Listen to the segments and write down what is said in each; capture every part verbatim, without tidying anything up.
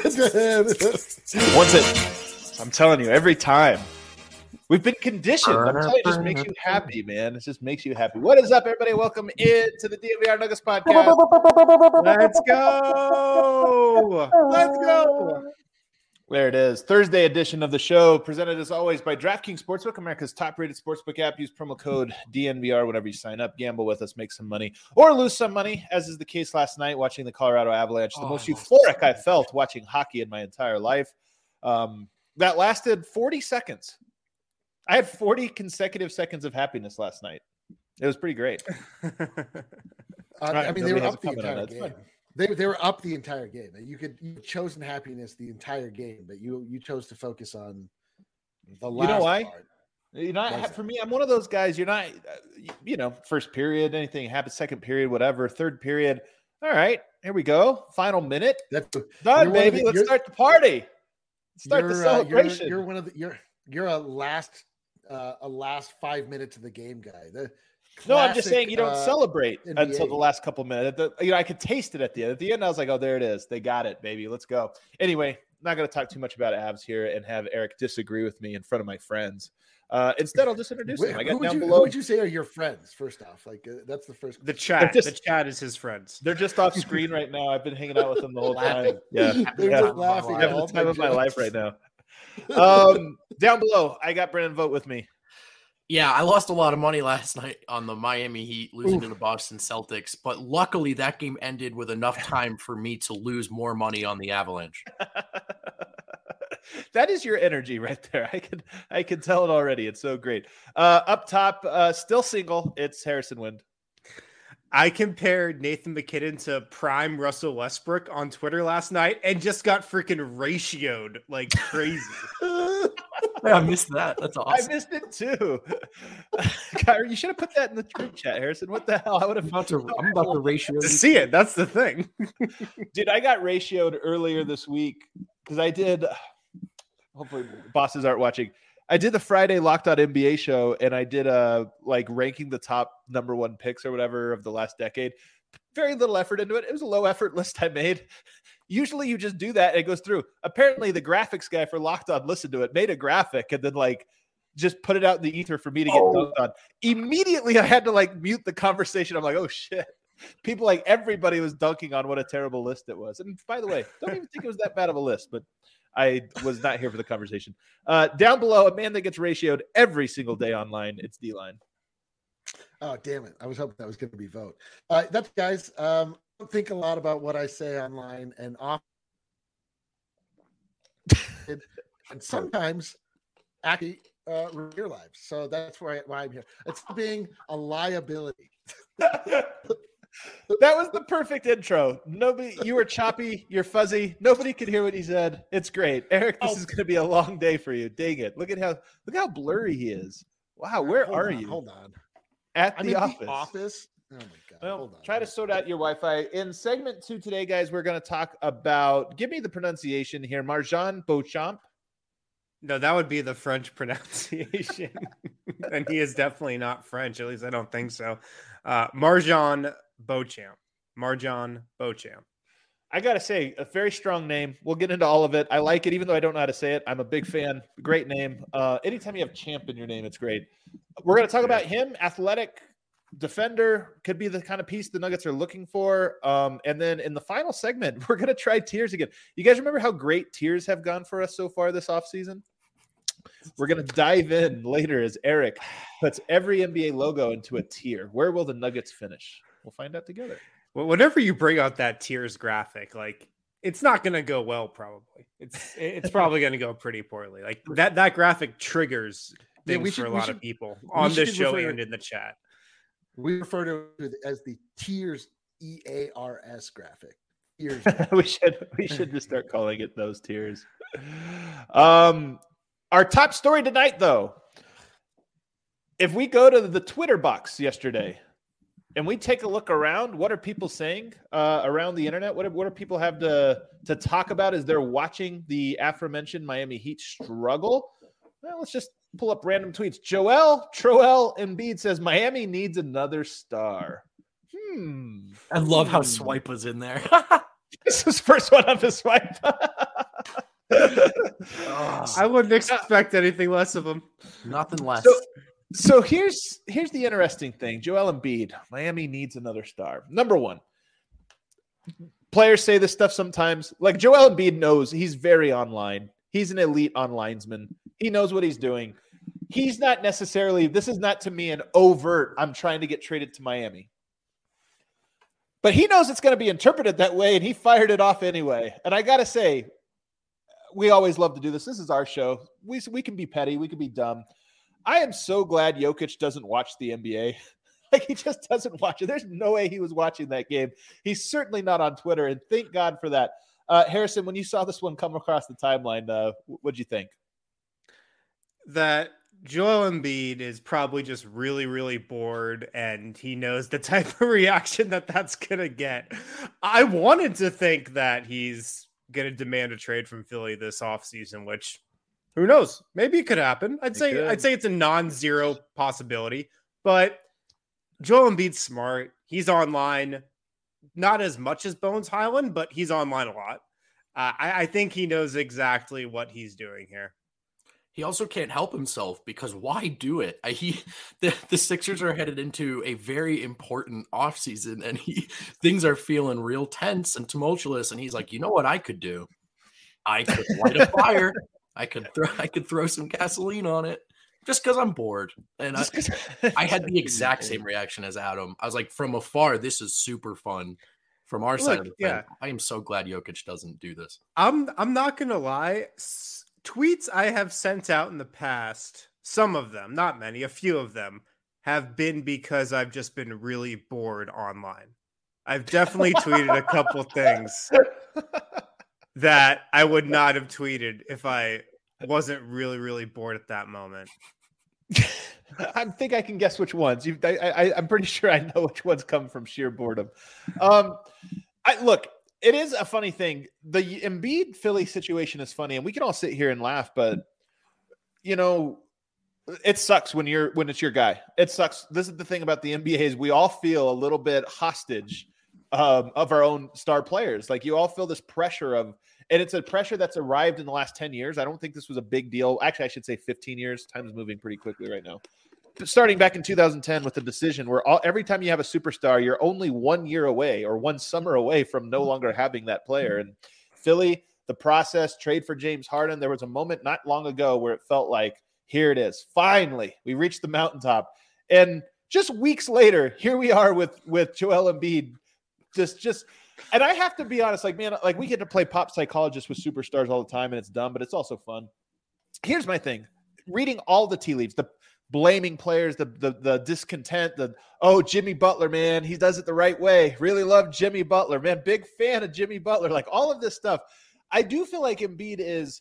Once it, I'm telling you, every time. We've been conditioned. I'm telling you, it just makes you happy, man. It just makes you happy. What is up, everybody? Welcome into the D N V R Nuggets podcast. Let's go. Let's go. There it is. Thursday edition of the show, presented as always by DraftKings Sportsbook, America's top-rated sportsbook app. Use promo code D N V R whenever you sign up. Gamble with us, make some money, or lose some money, as is the case last night watching the Colorado Avalanche. The oh, most euphoric I felt watching hockey in my entire life. Um, that lasted forty seconds. I had forty consecutive seconds of happiness last night. It was pretty great. uh, right, I mean, they were up the entire game. They, they were up the entire game. You could you chosen happiness the entire game, but you you chose to focus on the last You know why? part. You know, for me, I'm one of those guys. You're not, you know, first period, anything happens, second period, whatever, third period. All right, here we go. Final minute. That's done, baby. The, Let's start the party. Let's start the celebration. Uh, you're, you're one of the you're you're a last. Uh, a last five minutes of the game guy. The classic, no, I'm just saying you don't uh, celebrate N B A. Until the last couple minutes. The, you know, I could taste it at the end. At the end, I was like, "Oh, there it is. They got it, baby. Let's go." Anyway, not going to talk too much about Avs here and have Eric disagree with me in front of my friends. Uh, instead, I'll just introduce Wait, them. I got down you, below. Who would you say are your friends? First off, like uh, that's the first. The chat. Just, the chat is his friends. They're just off screen right now. I've been hanging out with them the whole time. Yeah, they're yeah. just laughing. I'm having the time of my life right now. Um, down below, I got Brennan Vogt with me. Yeah, I lost a lot of money last night on the Miami Heat losing Oof. to the Boston Celtics, but luckily that game ended with enough time for me to lose more money on the Avalanche. That is your energy right there. I can I can tell it already. It's so great. Uh, up top, uh, still single. It's Harrison Wind. I compared Nathan McKinnon to prime Russell Westbrook on Twitter last night and just got freaking ratioed like crazy. I missed that. That's awesome. I missed it too. Kyrie, you should have put that in the group chat, Harrison. What the hell? I would have. I'm about to, I'm about to ratio to see it. That's the thing. Dude, I got ratioed earlier this week because I did. Hopefully, bosses aren't watching. I did the Friday Locked On N B A show, and I did a like ranking the top number one picks or whatever of the last decade. Very little effort into it. It was a low effort list I made. Usually you just do that and it goes through. Apparently the graphics guy for Locked On listened to it, made a graphic, and then like just put it out in the ether for me to get oh. dunked on. Immediately I had to like mute the conversation. I'm like, oh shit. People like everybody was dunking on what a terrible list it was. And by the way, don't even think it was that bad of a list, but I was not here for the conversation. Uh, down below, a man that gets ratioed every single day online. It's D-Line. Oh, damn it. I was hoping that was going to be Vogt. Uh, that's guys. Um, I don't think a lot about what I say online and off. and sometimes actually uh, real lives. So that's why, why I'm here. It's being a liability. That was the perfect intro. Nobody, you were choppy, you're fuzzy. Nobody could hear what he said. It's great, Eric. This oh. is going to be a long day for you. Dang it! Look at how look how blurry he is. Wow, where hold are on, you? Hold on. At I'm the in office. The office. Oh my god! Well, hold on. Try to sort out your Wi-Fi. In segment two today, guys, we're going to talk about. Give me the pronunciation here. MarJon Beauchamp. No, that would be the French pronunciation, and he is definitely not French. At least I don't think so. Uh, MarJon Beauchamp. MarJon Beauchamp. I got to say, a very strong name. We'll get into all of it. I like it, even though I don't know how to say it. I'm a big fan. Great name. Uh, anytime you have champ in your name, it's great. We're going to talk about him. Athletic defender. Could be the kind of piece the Nuggets are looking for. Um, and then in the final segment, we're going to try tiers again. You guys remember how great tiers have gone for us so far this offseason? We're going to dive in later as Eric puts every N B A logo into a tier. Where will the Nuggets finish? We'll find out together. Well, whenever you bring out that tiers graphic, like it's not going to go well. Probably it's it's probably going to go pretty poorly. Like that that graphic triggers things yeah, we should, for a lot should, of people on this show and in the chat. We refer to it as the tiers E A R S graphic. Tiers. we should we should just start calling it those tiers. Um, our top story tonight, though. If we go to the Twitter box yesterday. And we take a look around. What are people saying uh, around the internet? What do, what do people have to, to talk about as they're watching the aforementioned Miami Heat struggle? Well, let's just pull up random tweets. Joel Troel Embiid says Miami needs another star. Hmm. I love hmm. how Swipe was in there. This was the first one on the Swipe. I wouldn't expect anything less of him. Nothing less. So, so here's here's the interesting thing. Joel Embiid, Miami needs another star. Number one, players say this stuff sometimes. Like Joel Embiid knows he's very online. He's an elite onlinesman. He knows what he's doing. He's not necessarily, this is not to me an overt, I'm trying to get traded to Miami. But he knows it's going to be interpreted that way, and he fired it off anyway. And I got to say, we always love to do this. This is our show. We, we can be petty. We can be dumb. I am so glad Jokic doesn't watch the N B A. Like, he just doesn't watch it. There's no way he was watching that game. He's certainly not on Twitter, and thank God for that. Uh, Harrison, when you saw this one come across the timeline, uh, what'd you think? That Joel Embiid is probably just really, really bored, and he knows the type of reaction that that's going to get. I wanted to think that he's going to demand a trade from Philly this offseason, which who knows? Maybe it could happen. I'd it say could. I'd say it's a non-zero possibility, but Joel Embiid's smart. He's online, not as much as Bones Highland, but he's online a lot. Uh, I, I think he knows exactly what he's doing here. He also can't help himself because why do it? I, he the, the Sixers are headed into a very important offseason, and he things are feeling real tense and tumultuous. And he's like, you know what I could do? I could light a fire. I could throw I could throw some gasoline on it just because I'm bored. And I, I had the exact same reaction as Adam. I was like, from afar, this is super fun. From our Look, side of the yeah. thing, I am so glad Jokic doesn't do this. I'm I'm not gonna lie. Tweets I have sent out in the past, some of them, not many, a few of them, have been because I've just been really bored online. I've definitely tweeted a couple things that I would not have tweeted if I wasn't really, really bored at that moment. I think I can guess which ones. You, I, I, I'm pretty sure I know which ones come from sheer boredom. Um, I look. It is a funny thing. The Embiid Philly situation is funny, and we can all sit here and laugh, but you know, it sucks when you're when it's your guy. It sucks. This is the thing about the N B A is we all feel a little bit hostage um, of our own star players. Like you all feel this pressure of, and it's a pressure that's arrived in the last ten years. I don't think this was a big deal. Actually, I should say fifteen years. Time is moving pretty quickly right now. Starting back in two thousand ten with the decision where all, every time you have a superstar, you're only one year away or one summer away from no longer having that player. And Philly, the process, trade for James Harden, there was a moment not long ago where it felt like, here it is. Finally, we reached the mountaintop. And just weeks later, here we are with, with Joel Embiid. Just, just, and I have to be honest, like, man, like we get to play pop psychologist with superstars all the time and it's dumb, but it's also fun. Here's my thing. Reading all the tea leaves, the blaming players, the, the the discontent, the, oh, Jimmy Butler, man, he does it the right way. Really love Jimmy Butler, man. Big fan of Jimmy Butler. Like all of this stuff. I do feel like Embiid is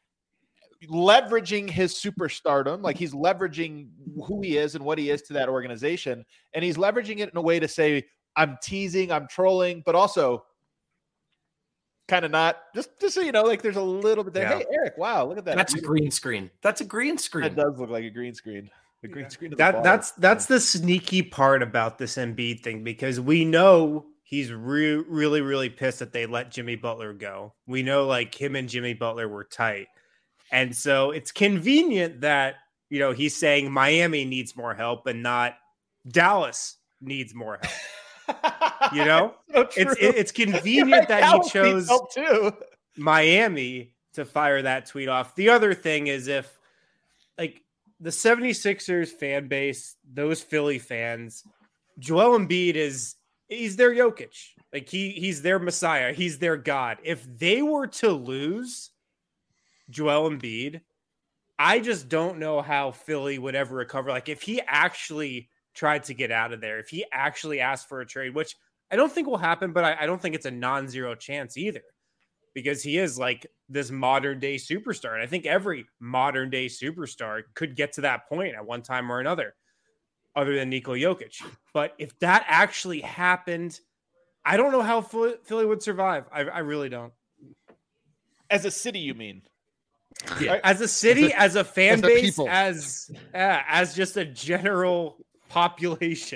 leveraging his superstardom. Like he's leveraging who he is and what he is to that organization. And he's leveraging it in a way to say, I'm teasing, I'm trolling, but also kind of not. Just, just so you know, like there's a little bit there. Yeah. Hey, Eric, wow, look at that. That's a green screen. That's a green screen. That does look like a green screen. The green yeah. screen. That that's that's the sneaky part about this Embiid thing because we know he's re- really really pissed that they let Jimmy Butler go. We know like him and Jimmy Butler were tight, and so it's convenient that you know he's saying Miami needs more help and not Dallas needs more help. You know, so it's it, it's convenient that he chose too. Miami to fire that tweet off. The other thing is if like the 76ers fan base, those Philly fans, Joel Embiid is he's their Jokic. Like he he's their Messiah. He's their God. If they were to lose Joel Embiid, I just don't know how Philly would ever recover. Like if he actually tried to get out of there, if he actually asked for a trade, which I don't think will happen, but I, I don't think it's a non-zero chance either because he is like this modern day superstar. And I think every modern day superstar could get to that point at one time or another, other than Nikola Jokic. But if that actually happened, I don't know how Philly would survive. I, I really don't. As a city, you mean? Yeah. As a city, as a, as a fan as base, as uh, as just a general population.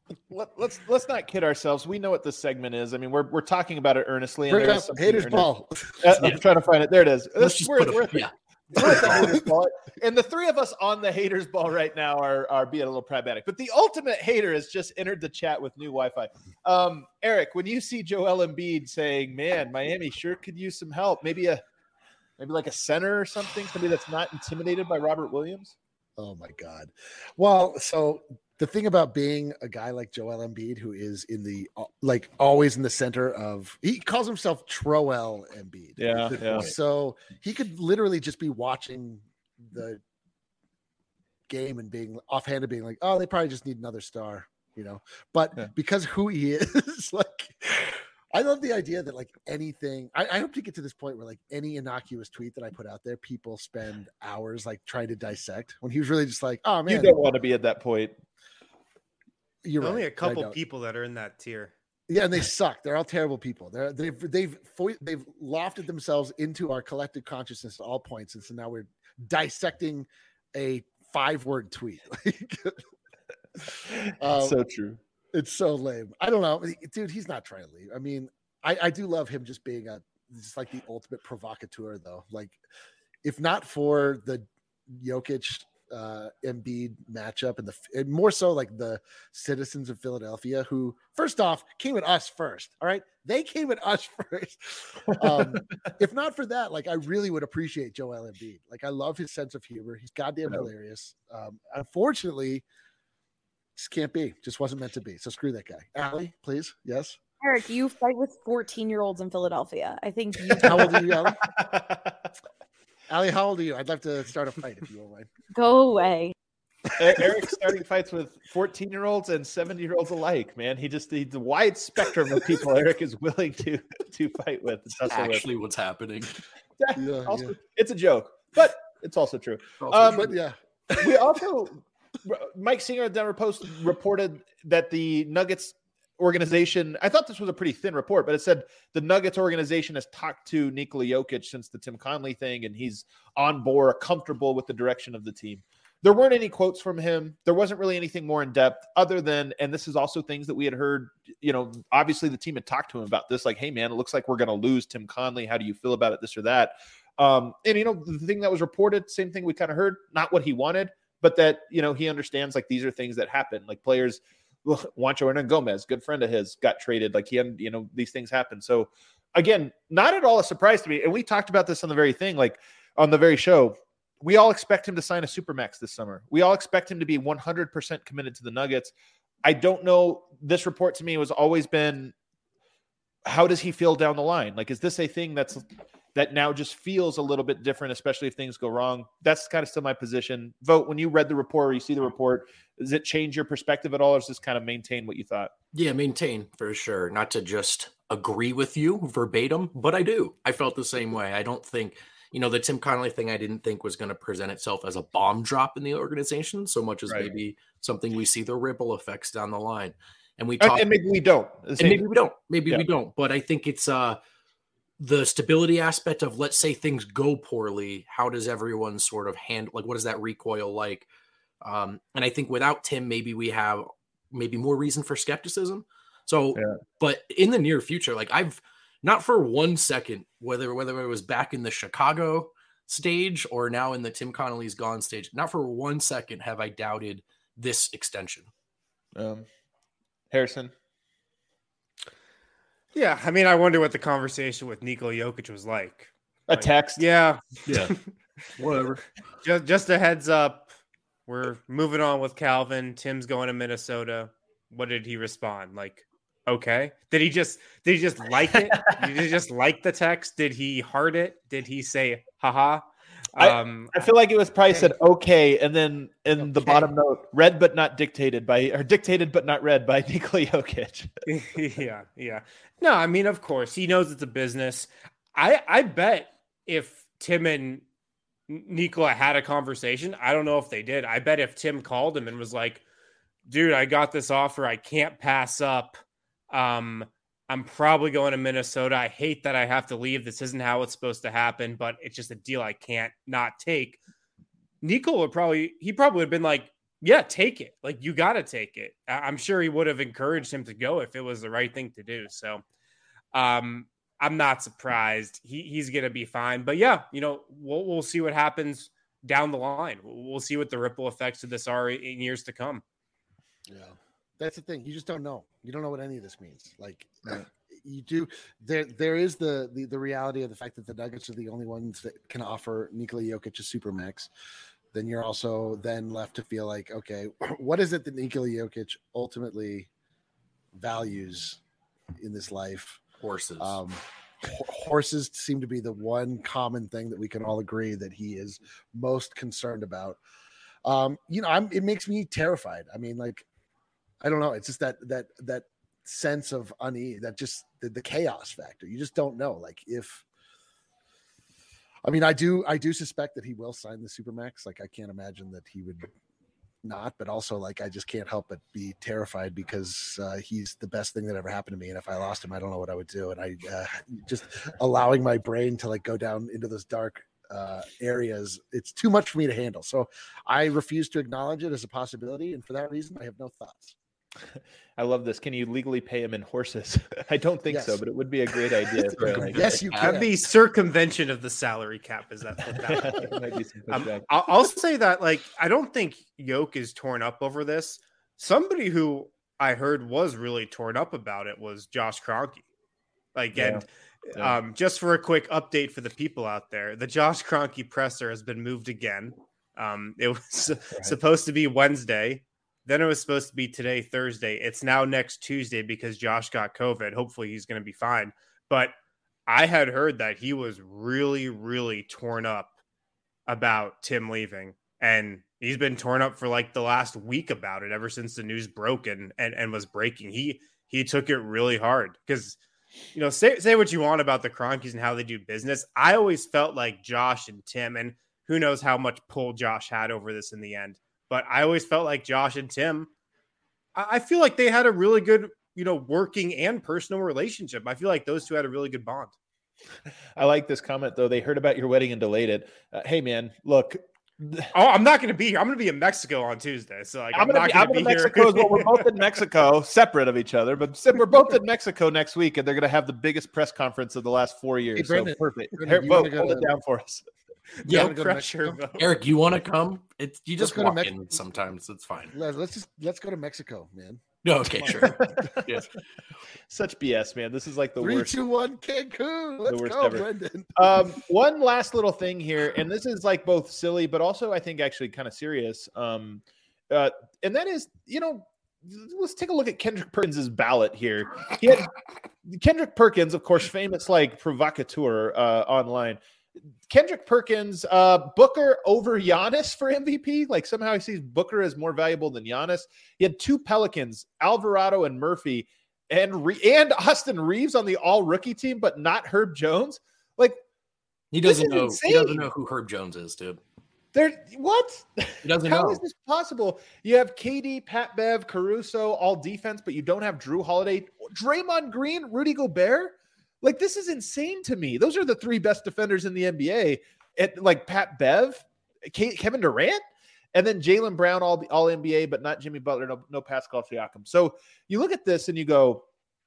Let, let's let's not kid ourselves. We know what this segment is. I mean, we're we're talking about it earnestly. And Bring up haters ball. Uh, I'm trying to find it. There it is. Let's just we're, put a, we're, yeah. we're the haters ball. And the three of us on the haters ball right now are are being a little pragmatic. But the ultimate hater has just entered the chat with new Wi-Fi. Um, Eric, when you see Joel Embiid saying, "Man, Miami sure could use some help," maybe a maybe like a center or something, somebody that's not intimidated by Robert Williams. Oh my God. Well, so the thing about being a guy like Joel Embiid, who is in the like always in the center of, he calls himself Troel Embiid. Yeah, yeah. So he could literally just be watching the game and being offhanded, being like, "Oh, they probably just need another star," you know. But yeah. because who he is, like, I love the idea that like anything. I, I hope to get to this point where like any innocuous tweet that I put out there, people spend hours like trying to dissect. When he was really just like, "Oh man, you don't want to be at that point." You're only right, a couple people that are in that tier. Yeah, and they suck. They're all terrible people. They're they've they've they've lofted themselves into our collective consciousness at all points, and so now we're dissecting a five-word tweet. um, so true. It's so lame. I don't know, dude. He's not trying to leave. I mean, I, I do love him just being a just like the ultimate provocateur, though. Like, if not for the Jokic uh Embiid matchup and the and more so like the citizens of Philadelphia, who first off came at us first. All right, they came at us first. Um, if not for that, like I really would appreciate Joel Embiid. Like I love his sense of humor. He's goddamn hilarious. Um, unfortunately, just can't be. Just wasn't meant to be. So screw that guy. Allie, please. Yes. Eric, you fight with fourteen year olds in Philadelphia. I think. You- How old are you, Allie? Allie, how old are you? I'd love to start a fight if you won't mind. Go away. Eric's starting fights with fourteen-year-olds and seventy-year-olds alike, man. He just needs a wide spectrum of people Eric is willing to to fight with. That's actually with. What's happening. Yeah, also, yeah. It's a joke, but it's also true. Also, um, but yeah. We also, Mike Singer of Denver Post reported that the Nuggets organization, I thought this was a pretty thin report, but it said the Nuggets organization has talked to Nikola Jokic since the Tim Conley thing, and he's on board, comfortable with the direction of the team. There weren't any quotes from him. There wasn't really anything more in depth other than, and this is also things that we had heard, you know, obviously the team had talked to him about this, like, hey man, it looks like we're going to lose Tim Conley. How do you feel about it? This or that. Um, and, you know, the thing that was reported, same thing we kind of heard, not what he wanted, but that, you know, he understands like these are things that happen. Like players, Juancho Hernan Gomez, good friend of his, got traded. Like he had, you know, these things happen. So again, not at all a surprise to me. And we talked about this on the very thing, like on the very show. We all expect him to sign a Supermax this summer. We all expect him to be one hundred percent committed to the Nuggets. I don't know. This report to me has always been, how does he feel down the line? Like, is this a thing that's that now just feels a little bit different, especially if things go wrong? That's kind of still my position. Vote, when you read the report or you see the report, does it change your perspective at all, or does this kind of maintain what you thought? Yeah, maintain for sure. Not to just agree with you verbatim, but I do. I felt the same way. I don't think, you know, the Tim Connelly thing I didn't think was going to present itself as a bomb drop in the organization so much as right. maybe something we see the ripple effects down the line. And we talk, and maybe we don't. And maybe we don't. Maybe yeah. we don't. But I think it's uh, the stability aspect of, let's say things go poorly. How does everyone sort of handle, like, what is that recoil like? Um, and I think without Tim, maybe we have maybe more reason for skepticism. So, yeah. but in the near future, like I've not for one second, whether whether it was back in the Chicago stage or now in the Tim Connelly's gone stage, not for one second have I doubted this extension. Um, Harrison. Yeah, I mean, I wonder what the conversation with Nikola Jokic was like. A like, text? Yeah. Yeah. Whatever. Just, just a heads up. We're moving on with Calvin. Tim's going to Minnesota. What did he respond? Like, okay. Did he just did he just like it? Did he just like the text? Did he heart it? Did he say haha? Um, I, I feel like it was probably okay. said okay, and then in okay. the bottom note, read but not dictated by, or dictated but not read by Nikola Jokic. yeah, yeah. No, I mean, of course, he knows it's a business. I I bet if Tim and Nikola had a conversation, I don't know if they did. I bet if Tim called him and was like, dude, I got this offer I can't pass up. Um, I'm probably going to Minnesota. I hate that I have to leave. This isn't how it's supposed to happen, but it's just a deal I can't not take. Nikola would probably, he probably would have been like, yeah, take it. Like, you got to take it. I'm sure he would have encouraged him to go if it was the right thing to do. So um, I'm not surprised. He, he's going to be fine. But yeah, you know, we'll, we'll see what happens down the line. We'll see what the ripple effects of this are in years to come. Yeah, that's the thing. You just don't know. You don't know what any of this means. Like, right. You do. There, there is the, the the reality of the fact that the Nuggets are the only ones that can offer Nikola Jokic a supermax. Then you're also then left to feel like, okay, what is it that Nikola Jokic ultimately values in this life? Horses. Um, horses seem to be the one common thing that we can all agree that he is most concerned about. Um, you know, I'm, it makes me terrified. I mean, like, I don't know. It's just that that that sense of unease, that just the, the chaos factor. You just don't know. Like, if I mean, I do, I do suspect that he will sign the Supermax. Like, I can't imagine that he would not, but also, like, I just can't help but be terrified because uh, he's the best thing that ever happened to me. And if I lost him, I don't know what I would do. And I uh, just allowing my brain to like go down into those dark uh, areas, it's too much for me to handle. So I refuse to acknowledge it as a possibility. And for that reason, I have no thoughts. I love this. Can you legally pay him in horses? I don't think Yes. so, but it would be a great idea. For, like, Yes, you Have can. the circumvention of the salary cap. Is that what that would be? Might be some Um, pushback. I'll, I'll say that, like, I don't think Yoke is torn up over this. Somebody who I heard was really torn up about it was Josh Kroenke. Like, Yeah. and Yeah. um, just for a quick update for the people out there, the Josh Kroenke presser has been moved again. Um, it was Right. supposed to be Wednesday. Then it was supposed to be today, Thursday. It's now next Tuesday because Josh got COVID. Hopefully he's going to be fine. But I had heard that he was really, really torn up about Tim leaving. And he's been torn up for like the last week about it ever since the news broke and, and, and was breaking. He he took it really hard because, you know, say, say what you want about the Kroenkes and how they do business. I always felt like Josh and Tim, and who knows how much pull Josh had over this in the end. But I always felt like Josh and Tim, I feel like they had a really good, you know, working and personal relationship. I feel like those two had a really good bond. I like this comment, though. They heard about your wedding and delayed it. Uh, hey, man, look. Oh, I'm not going to be here. I'm going to be in Mexico on Tuesday. So like, I'm, I'm, gonna not be, going I'm to be in here. Mexico as well. We're both in Mexico, separate of each other, but we're both in Mexico next week, and they're going to have the biggest press conference of the last four years. Hey, Brandon, so perfect. Brandon, Here, you vote, wanna go hold to- it down for us. Yeah, wanna go to pressure. Mexico? vote. Eric, you want to come? It's you just Let's go to walk Mex- in sometimes. It's fine. Let- Let's just let's go to Mexico, man. No, okay, sure. Yeah. Such B S, man. This is like the Three, worst. two, one, Cancun. Let's worst go, ever. Brendan. Um, one last little thing here, and this is like both silly, but also I think actually kind of serious. Um, uh, and that is, you know, let's take a look at Kendrick Perkins' ballot here. He had Kendrick Perkins, of course, famous like provocateur uh, online. Kendrick Perkins, uh, Booker over Giannis for M V P. Like somehow he sees Booker as more valuable than Giannis. He had two Pelicans, Alvarado and Murphy, and Re- and Austin Reeves on the all rookie team, but not Herb Jones. Like He This doesn't is know. insane. He doesn't know who Herb Jones is, dude. There, what? He doesn't How know. is this possible? You have K D, Pat Bev, Caruso, all defense, but you don't have Drew Holiday, Draymond Green, Rudy Gobert. Like, this is insane to me. Those are the three best defenders in the N B A. At like Pat Bev, K- Kevin Durant, and then Jaylen Brown, all all N B A, but not Jimmy Butler, no, no Pascal Siakam. So you look at this and you go,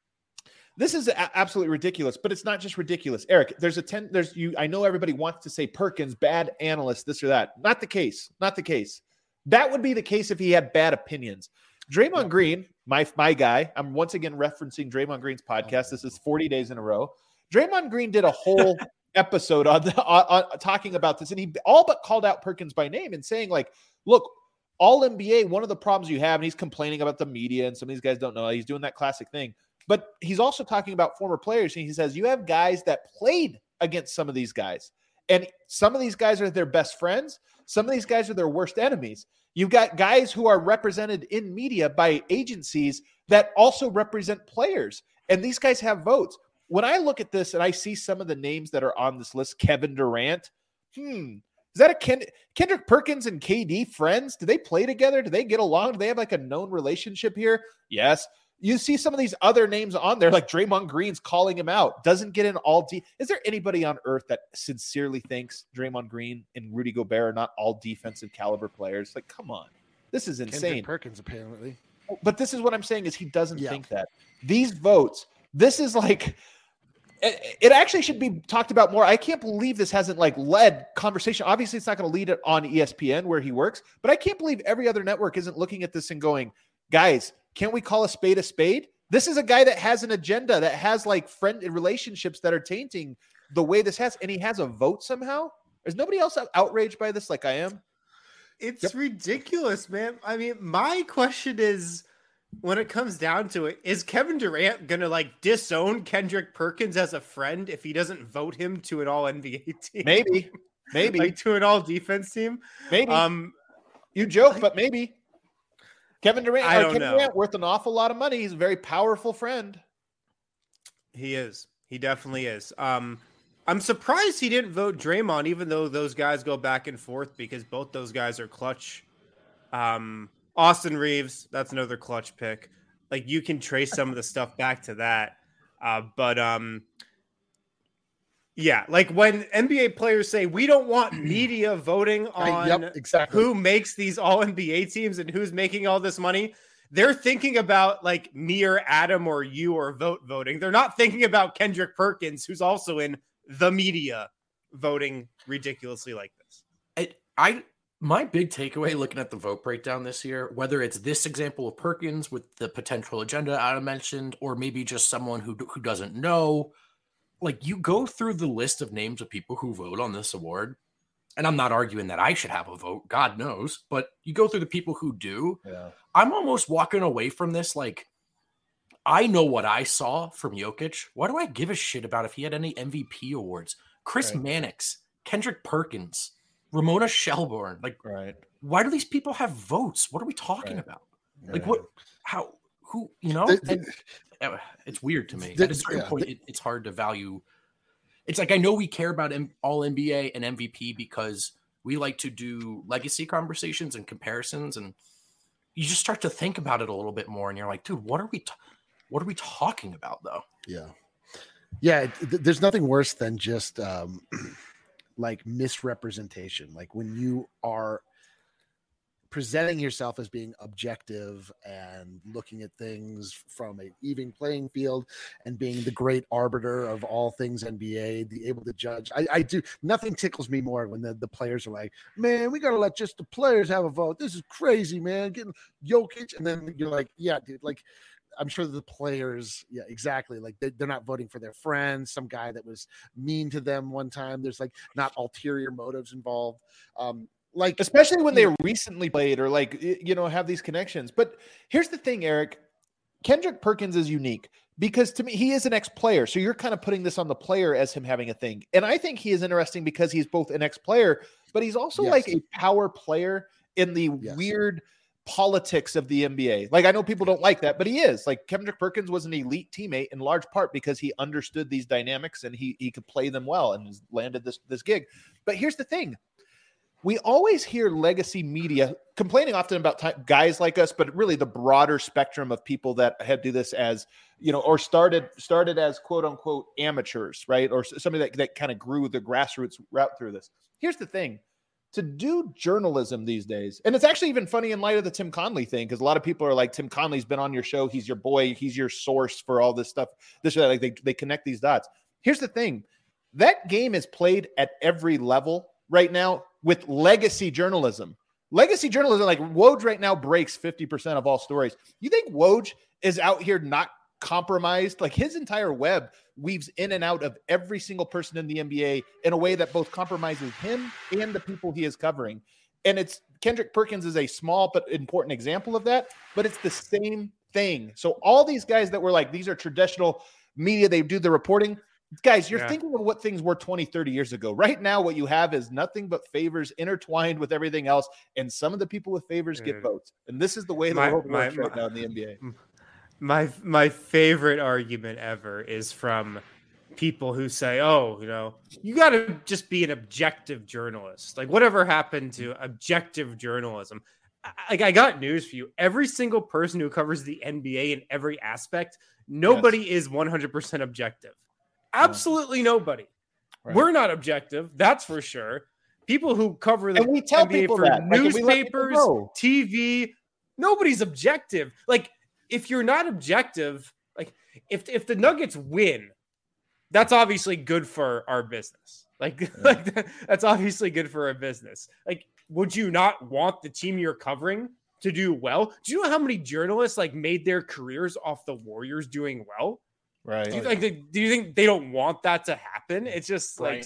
this is a- absolutely ridiculous. But it's not just ridiculous, Eric. There's a ten. There's you. I know everybody wants to say Perkins, bad analyst, this or that. Not the case. Not the case. That would be the case if he had bad opinions. Draymond Green, my my guy. I'm once again referencing Draymond Green's podcast. This is forty days in a row. Draymond Green did a whole episode on, the, on, on talking about this, and he all but called out Perkins by name and saying, like, look, all N B A, one of the problems you have, and he's complaining about the media, and some of these guys don't know. He's doing that classic thing. But he's also talking about former players, and he says, you have guys that played against some of these guys, and some of these guys are their best friends. Some of these guys are their worst enemies. You've got guys who are represented in media by agencies that also represent players, and these guys have votes. When I look at this and I see some of the names that are on this list, Kevin Durant, hmm, is that a Ken- Kendrick Perkins and K D friends? Do they play together? Do they get along? Do they have like a known relationship here? Yes. You see some of these other names on there, like Draymond Green's calling him out, doesn't get in all deep. Is there anybody on earth that sincerely thinks Draymond Green and Rudy Gobert are not all defensive caliber players? Like, come on. This is insane. Kendrick Perkins, apparently. But this is what I'm saying is he doesn't Yeah. think that. These votes, this is like, it, it actually should be talked about more. I can't believe this hasn't like led conversation. Obviously, it's not going to lead it on E S P N where he works, but I can't believe every other network isn't looking at this and going, guys, can't we call a spade a spade? This is a guy that has an agenda, that has like friend relationships that are tainting the way this has, and he has a vote somehow. Is nobody else outraged by this like I am? It's Yep. ridiculous, man. I mean, my question is, when it comes down to it, is Kevin Durant going to like disown Kendrick Perkins as a friend if he doesn't vote him to an all N B A team? Maybe, maybe, like to an all defense team? maybe. Um, You joke, but maybe. Kevin Durant, I or don't Kevin know. Durant worth an awful lot of money. He's a very powerful friend. He is. He definitely is. Um, I'm surprised he didn't vote Draymond, even though those guys go back and forth, because both those guys are clutch. Um, Austin Reeves, that's another clutch pick. Like, you can trace some of the stuff back to that. Uh, but um, yeah, like when N B A players say we don't want media voting on Right, yep, exactly. who makes these all N B A teams and who's making all this money, they're thinking about like me or Adam or you or vote voting. They're not thinking about Kendrick Perkins, who's also in the media voting ridiculously like this. I, I my big takeaway looking at the vote breakdown this year, whether it's this example of Perkins with the potential agenda Adam mentioned, or maybe just someone who who doesn't know, like you go through the list of names of people who vote on this award, and I'm not arguing that I should have a vote, God knows, but you go through the people who do. Yeah. I'm almost walking away from this like, I know what I saw from Jokic. Why do I give a shit about if he had any M V P awards? Chris Right. Mannix, Kendrick Perkins, Ramona Shelburne. Like, Right. why do these people have votes? What are we talking Right. about? Like, Right. what, how, who, you know? The- the- And, uh, it's weird to me. the- At a certain yeah, point, the- it, it's hard to value. It's like, I know we care about M- all N B A and M V P because we like to do legacy conversations and comparisons, and you just start to think about it a little bit more, and you're like, dude, what are we, t- what are we talking about though? Yeah. Yeah. it- th- there's nothing worse than just um, like misrepresentation. Like when you are presenting yourself as being objective and looking at things from an even playing field and being the great arbiter of all things N B A, the able to judge. I, I do nothing tickles me more when the, the players are like, man, we got to let just the players have a vote. This is crazy, man. Getting Jokic. And then you're like, yeah, dude, like, I'm sure the players, yeah, exactly. Like they, they're not voting for their friends, some guy that was mean to them one time. There's like not ulterior motives involved. Um, like Especially when they recently played or like, y- you know, have these connections. But here's the thing, Eric. Kendrick Perkins is unique because to me, he is an ex-player. So you're kind of putting this on the player as him having a thing. And I think he is interesting because he's both an ex-player, but he's also Yes. like a power player in the Yes. weird politics of the N B A. Like I know people don't like that, but he is. Like Kendrick Perkins was an elite teammate in large part because he understood these dynamics and he he could play them well and has landed this this gig. But here's the thing. We always hear legacy media complaining often about ty- guys like us, but really the broader spectrum of people that had do this as, you know, or started started as quote unquote amateurs, right? Or s- somebody that, that kind of grew the grassroots route through this. Here's the thing. To do journalism these days, and it's actually even funny in light of the Tim Conley thing, because a lot of people are like, Tim Conley's been on your show. He's your boy. He's your source for all this stuff. This or that. Like they, they connect these dots. Here's the thing. That game is played at every level right now with legacy journalism. Legacy journalism, like Woj right now breaks fifty percent of all stories. You think Woj is out here not compromised? Like his entire web weaves in and out of every single person in the N B A in a way that both compromises him and the people he is covering. And it's Kendrick Perkins is a small but important example of that, but it's the same thing. So all these guys that were like, these are traditional media, they do the reporting. Guys, you're Yeah. thinking of what things were twenty, thirty years ago. Right now, what you have is nothing but favors intertwined with everything else. And some of the people with favors get Dude. votes. And this is the way the My- world my- works right my- now in the N B A. My my favorite argument ever is from people who say, "Oh, you know, you got to just be an objective journalist. Like whatever happened to objective journalism?" I- Like I got news for you. Every single person who covers the N B A in every aspect, nobody is one hundred percent objective. Absolutely nobody. Right. We're not objective, that's for sure. people who cover the and we tell N B A people for that. Like, newspapers, T V, nobody's objective. Like, if you're not objective, like if if the Nuggets win, that's obviously good for our business. Like, yeah. like that's obviously good for our business. Like, would you not want the team you're covering to do well? Do you know how many journalists like made their careers off the Warriors doing well? Right. Do you, like, do you think they don't want that to happen? It's just like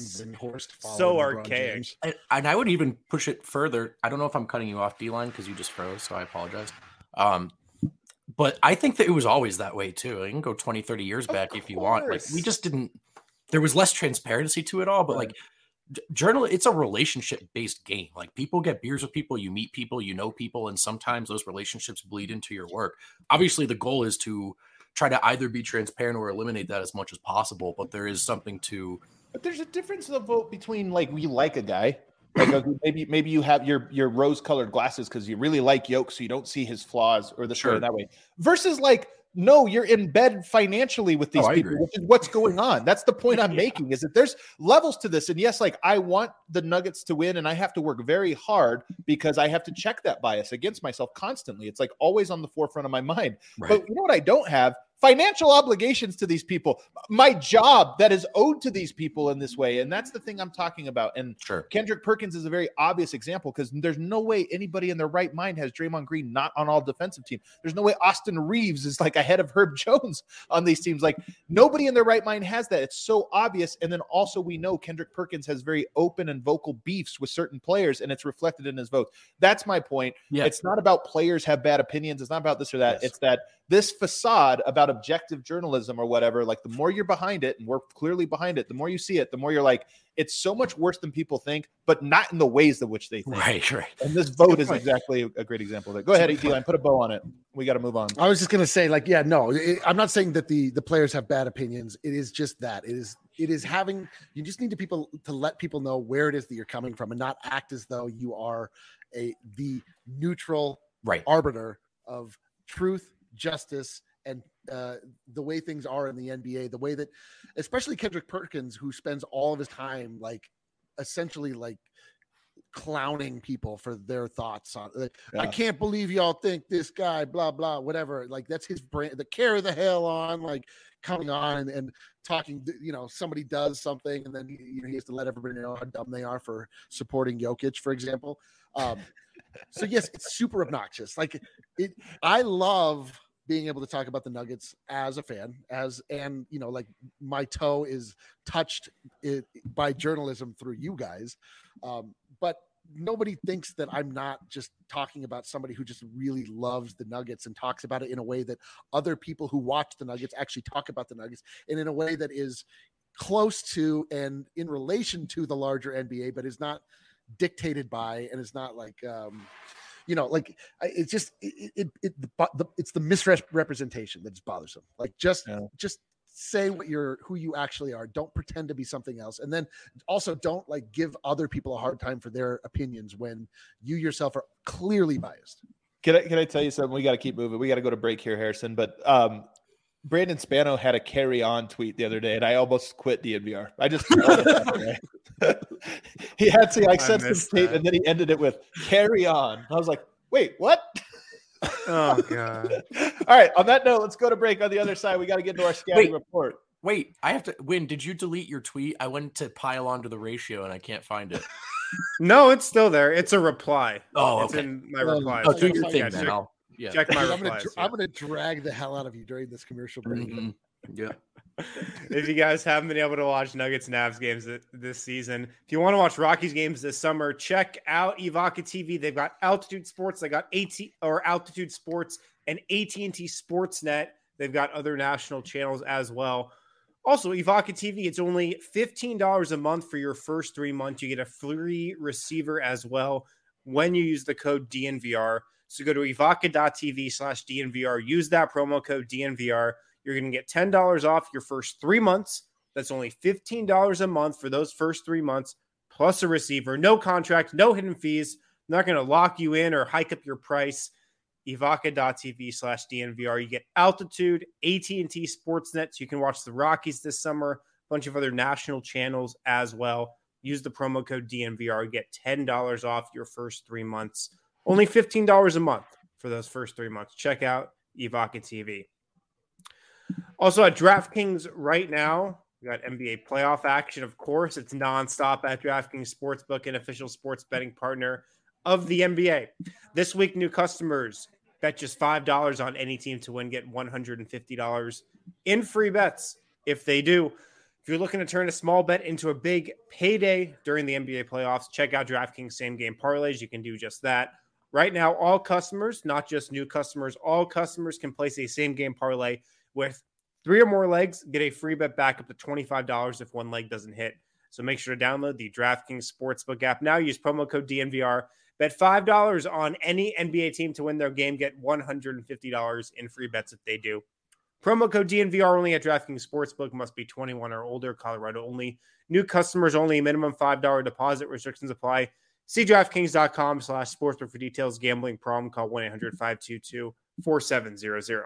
so archaic. And, and I would even push it further. I don't know if I'm cutting you off, D-Line, because you just froze, so I apologize. Um, but I think that it was always that way too. You can go twenty, thirty years Of back course. if you want. Like, we just didn't. There was less transparency to it all, but right. like. Journal, it's a relationship-based game. Like, people get beers with people, you meet people, you know people, and sometimes those relationships bleed into your work. Obviously, the goal is to try to either be transparent or eliminate that as much as possible, but there is something to... But there's a difference in the vote between, like, we like a guy. Like, okay, maybe maybe you have your, your rose-colored glasses because you really like Yoke, so you don't see his flaws or the sure. story that way. Versus, like, no, you're in bed financially with these oh, people, which is what's going on. That's the point I'm making, is that there's levels to this. And yes, like, I want the Nuggets to win, and I have to work very hard because I have to check that bias against myself constantly. It's like always on the forefront of my mind. Right. But you know what I don't have? Financial obligations to these people, my job that is owed to these people in this way. And that's the thing I'm talking about. And sure. Kendrick Perkins is a very obvious example, because there's no way anybody in their right mind has Draymond Green not on all defensive team. There's no way Austin Reeves is like ahead of Herb Jones on these teams. Like, nobody in their right mind has that. It's so obvious. And then also we know Kendrick Perkins has very open and vocal beefs with certain players, and it's reflected in his votes. That's my point. Yeah. It's not about players have bad opinions. It's not about this or that. Yes. It's that this facade about objective journalism or whatever, like, the more you're behind it, and we're clearly behind it, the more you see it, the more you're like, it's so much worse than people think, but not in the ways in which they think. Right, right. And this vote is exactly a great example of it. Go ahead, D-Line, put a bow on it. We got to move on. I was just going to say, like, yeah, no, it, I'm not saying that the, the players have bad opinions. It is just that it is, it is having, you just need to people to let people know where it is that you're coming from, and not act as though you are a, the neutral right. arbiter of truth, justice, and uh, the way things are in the N B A, the way that, especially Kendrick Perkins, who spends all of his time, like, essentially, like, clowning people for their thoughts on, like, yeah. I can't believe y'all think this guy, blah, blah, whatever. Like, that's his brand, the carry the hell on, like, coming on and, and talking, you know, somebody does something, and then he, you know, he has to let everybody know how dumb they are for supporting Jokic, for example. Um, so yes, it's super obnoxious. Like, it, I love being able to talk about the Nuggets as a fan, as, and, you know, like, my toe is touched it, by journalism through you guys. Um, but nobody thinks that I'm not just talking about somebody who just really loves the Nuggets and talks about it in a way that other people who watch the Nuggets actually talk about the Nuggets, and in a way that is close to and in relation to the larger N B A, but is not dictated by, and it's not like, um, you know, like, it's just, it, it, it the, it's the misrepresentation that's bothersome. Like, just, yeah. just say what you're, who you actually are. Don't pretend to be something else. And then also don't, like, give other people a hard time for their opinions when you yourself are clearly biased. Can I, can I tell you something? We got to keep moving. We got to go to break here, Harrison. But um, Brandon Spano had a carry on tweet the other day, and I almost quit D N V R. I just, he had to, like, sent some tape, and then he ended it with carry on. I was like, wait, what? Oh, God. All right. On that note, let's go to break. On the other side, we got to get into our scouting wait, report. Wait, I have to win. Did you delete your tweet? I went to pile onto the ratio and I can't find it. No, it's still there. It's a reply. Oh, it's okay. in my replies. Oh, do your thing, yeah, then. Check, I'll, yeah. check my I'm replies. Gonna, yeah. I'm going to drag the hell out of you during this commercial break. Mm-hmm. Yeah. If you guys haven't been able to watch Nuggets Navs games this season, if you want to watch Rockies games this summer, check out Evoca T V. They've got Altitude Sports, they got AT or Altitude Sports and A T and T Sportsnet. They've got other national channels as well. Also, Evoca T V, it's only fifteen dollars a month for your first three months. You get a free receiver as well when you use the code D N V R. So go to evoca.tv slash DNVR. Use that promo code D N V R. You're going to get ten dollars off your first three months. That's only fifteen dollars a month for those first three months, plus a receiver. No contract, no hidden fees. I'm not going to lock you in or hike up your price. Evoca.tv slash DNVR. You get Altitude, A T and T Sportsnet, so you can watch the Rockies this summer, a bunch of other national channels as well. Use the promo code D N V R. Get ten dollars off your first three months. Only fifteen dollars a month for those first three months. Check out Evoca T V. Also at DraftKings right now, we got N B A playoff action. Of course, it's nonstop at DraftKings Sportsbook, an official sports betting partner of the N B A. This week, new customers bet just five dollars on any team to win, get one hundred fifty dollars in free bets if they do. If you're looking to turn a small bet into a big payday during the N B A playoffs, check out DraftKings Same Game Parlays. You can do just that. Right now, all customers, not just new customers, all customers can place a same game parlay with three or more legs, get a free bet back up to twenty-five dollars if one leg doesn't hit. So make sure to download the DraftKings Sportsbook app now. Use promo code D N V R. Bet five dollars on any N B A team to win their game. Get one hundred fifty dollars in free bets if they do. Promo code D N V R only at DraftKings Sportsbook. Must be twenty-one or older. Colorado only. New customers only. Minimum five dollars deposit. Restrictions apply. See DraftKings.com slash sportsbook for details. Gambling problem, call one eight hundred five two two four seven zero zero.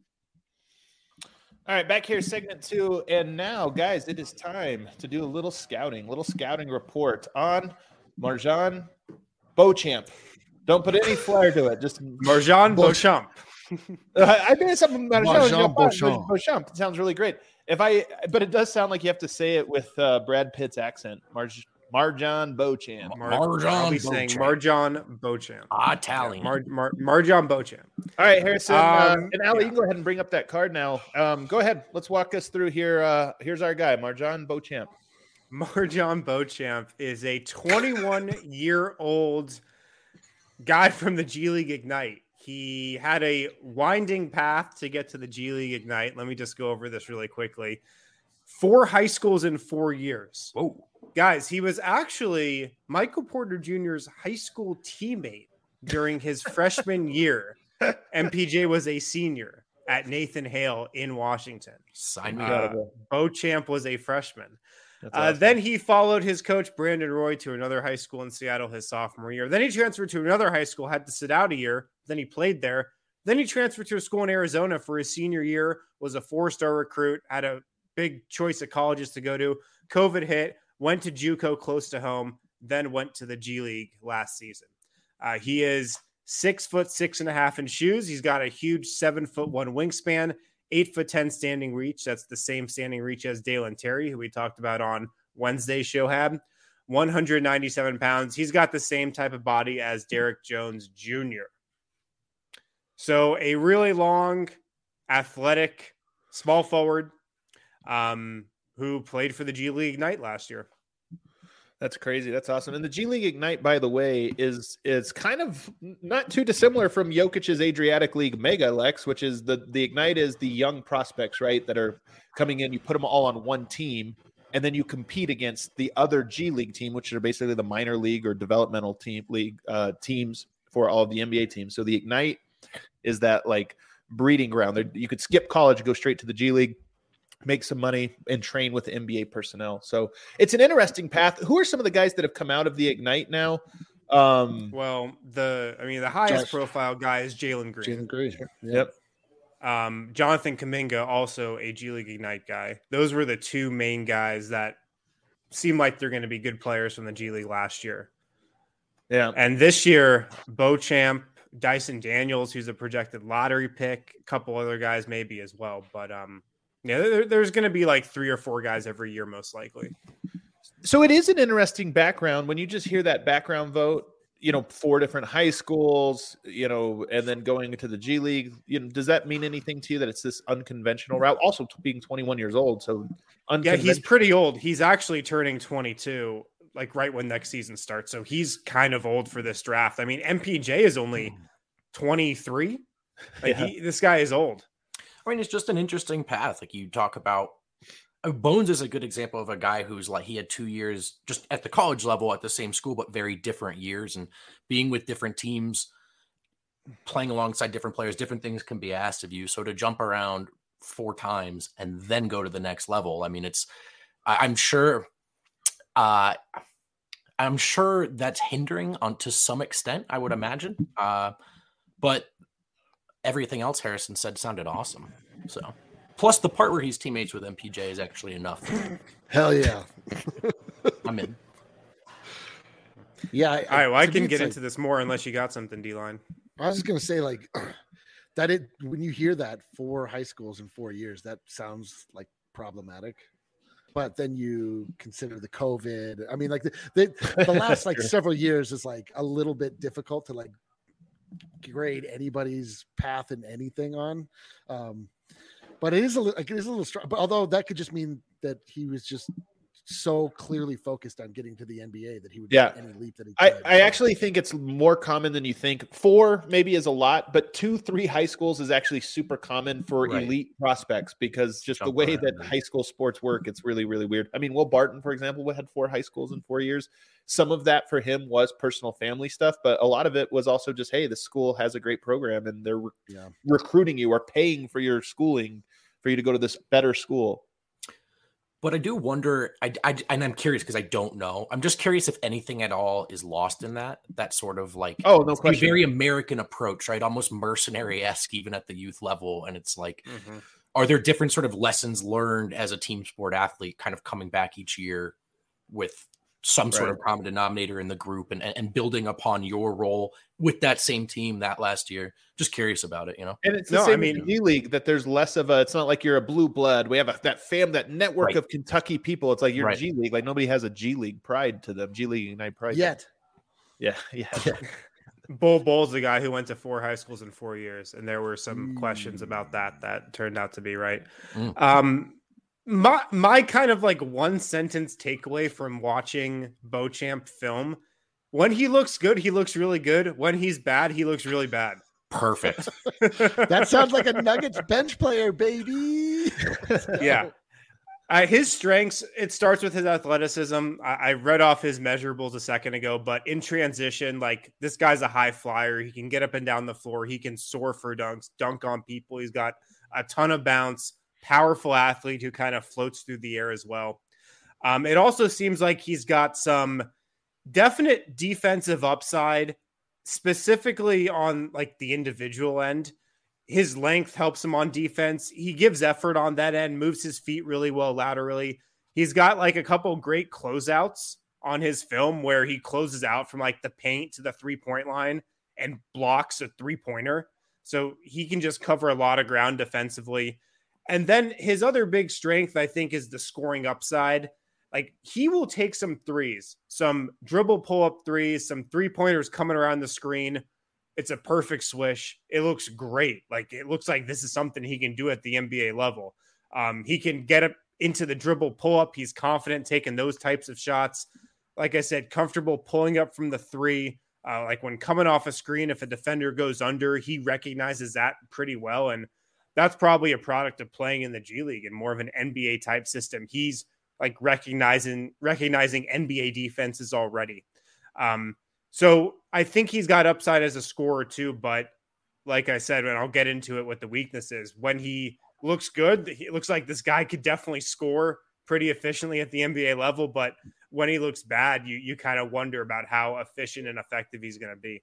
All right, back here, segment two. And now, guys, it is time to do a little scouting, little scouting report on MarJon Beauchamp. Don't put any flair to it. Just MarJon Beauchamp. uh, I made something about MarJon Beauchamp. Beauchamp. It sounds really great. If I, but it does sound like you have to say it with uh, Brad Pitt's accent. Marj, MarJon Beauchamp. Mar- MarJon I'll be saying MarJon Beauchamp. Italian. Mar- Mar- MarJon Beauchamp. All right, Harrison. Um, uh, and Allie, yeah. you can go ahead and bring up that card now. Um, go ahead. Let's walk us through here. Uh, here's our guy, MarJon Beauchamp. MarJon Beauchamp is a twenty-one-year-old guy from the G League Ignite. He had a winding path to get to the G League Ignite. Let me just go over this really quickly. Four high schools in four years. Whoa. Guys, he was actually Michael Porter Junior's high school teammate during his freshman year. M P J was a senior at Nathan Hale in Washington. Sign me Uh, up. Beauchamp was a freshman. That's Uh, awesome. then he followed his coach, Brandon Roy, to another high school in Seattle his sophomore year. Then he transferred to another high school, had to sit out a year. Then he played there. Then he transferred to a school in Arizona for his senior year, was a four-star recruit, had a big choice of colleges to go to. COVID hit, went to JUCO close to home, then went to the G League last season. Uh, he is six foot six and a half in shoes. He's got a huge seven foot one wingspan, eight foot ten standing reach. That's the same standing reach as Dalen Terry, who we talked about on Wednesday's show. Had one hundred ninety-seven pounds. He's got the same type of body as Derek Jones Junior So a really long, athletic, small forward um, who played for the G League Ignite last year. That's crazy. That's awesome. And the G League Ignite, by the way, is is kind of not too dissimilar from Jokic's Adriatic League Mega, Lex, which is the the Ignite is the young prospects, right, that are coming in. You put them all on one team, and then you compete against the other G League team, which are basically the minor league or developmental team league uh, teams for all of the N B A teams. So the Ignite is that like breeding ground. There, you could skip college, go straight to the G League, make some money, and train with the N B A personnel. So it's an interesting path. Who are some of the guys that have come out of the Ignite now? Um, Well, the I mean, the highest Josh. profile guy is Jalen Green. Jalen Green. Yep. Um, Jonathan Kuminga, also a G League Ignite guy. Those were the two main guys that seem like they're going to be good players from the G League last year. Yeah. And this year, Beauchamp, Dyson Daniels, who's a projected lottery pick, a couple other guys maybe as well. But um, yeah, there, there's going to be like three or four guys every year, most likely. So it is an interesting background when you just hear that background vote, you know, four different high schools, you know, and then going to the G League. You know, does that mean anything to you that it's this unconventional route? Also being twenty-one years old. So Yeah, he's pretty old. He's actually turning twenty-two, like right when next season starts. So he's kind of old for this draft. I mean, M P J is only twenty-three. Like Yeah. he, this guy is old. I mean, it's just an interesting path. Like you talk about, uh, Bones is a good example of a guy who's like, he had two years just at the college level at the same school, but very different years, and being with different teams, playing alongside different players, different things can be asked of you. So to jump around four times and then go to the next level, I mean, it's, I, I'm sure, uh, I'm sure that's hindering on to some extent, I would imagine. Uh, but everything else Harrison said sounded awesome. So, plus the part where he's teammates with M P J is actually enough. Hell yeah. I'm in. Yeah. I, All right. Well, I can get like, into this more unless you got something, D-Line. I was just going to say, like, that it, when you hear that four high schools in four years, that sounds like problematic. But then you consider the COVID. I mean, like the, the, the last like several years is like a little bit difficult to like grade anybody's path in anything on. Um, but it is a like it is a little strong. But although that could just mean that he was just so clearly focused on getting to the N B A that he would yeah. make any leap that he I, could. I actually think it's more common than you think. Four maybe is a lot, but two, three high schools is actually super common for Right. elite prospects because just Jump the way around, that right. high school sports work, it's really, really weird. I mean, Will Barton, for example, had four high schools in four years. Some of that for him was personal family stuff, but a lot of it was also just, hey, the school has a great program and they're re- Yeah. recruiting you or paying for your schooling for you to go to this better school. But I do wonder, I, I and I'm curious because I don't know. I'm just curious if anything at all is lost in that. That sort of like, Oh, no it's a question. very American approach, right? Almost mercenary-esque, even at the youth level. And it's like, Mm-hmm. are there different sort of lessons learned as a team sport athlete, kind of coming back each year with some sort Right. of common denominator in the group and, and building upon your role with that same team that last year? Just curious about it, you know? And it's the No, I same mean- in the G League that there's less of a, it's not like you're a blue blood. We have a, that fam, that network Right. of Kentucky people. It's like you're Right. G League. Like nobody has a G League pride to them. G League Ignite pride. Yet. Yeah. Yeah. Bull Bull's the guy who went to four high schools in four years, and there were some Mm. questions about that that turned out to be right. Mm. Um, my my kind of like one sentence takeaway from watching Beauchamp film: when he looks good, he looks really good. When he's bad, he looks really bad. Perfect. That sounds like a Nuggets bench player, baby. Yeah. Uh, his strengths, it starts with his athleticism. I, I read off his measurables a second ago, but in transition, like this guy's a high flyer. He can get up and down the floor. He can soar for dunks, dunk on people. He's got a ton of bounce, powerful athlete who kind of floats through the air as well. Um, it also seems like he's got some definite defensive upside, specifically on like the individual end. His length helps him on defense. He gives effort on that end, moves his feet really well laterally. He's got like a couple great closeouts on his film where he closes out from like the paint to the three-point line and blocks a three-pointer. So he can just cover a lot of ground defensively. And then his other big strength, I think, is the scoring upside. Like he will take some threes, some dribble pull-up threes, some three-pointers coming around the screen. It's a perfect swish. It looks great. Like it looks like this is something he can do at the N B A level. Um, he can get up into the dribble pull up. He's confident taking those types of shots. Like I said, comfortable pulling up from the three. Uh, like when coming off a screen, if a defender goes under, he recognizes that pretty well. And that's probably a product of playing in the G League and more of an N B A type system. He's like recognizing, recognizing N B A defenses already. Um, So I think he's got upside as a scorer too, but like I said, and I'll get into it what the weakness is. When he looks good, it looks like this guy could definitely score pretty efficiently at the N B A level, but when he looks bad, you you kind of wonder about how efficient and effective he's going to be.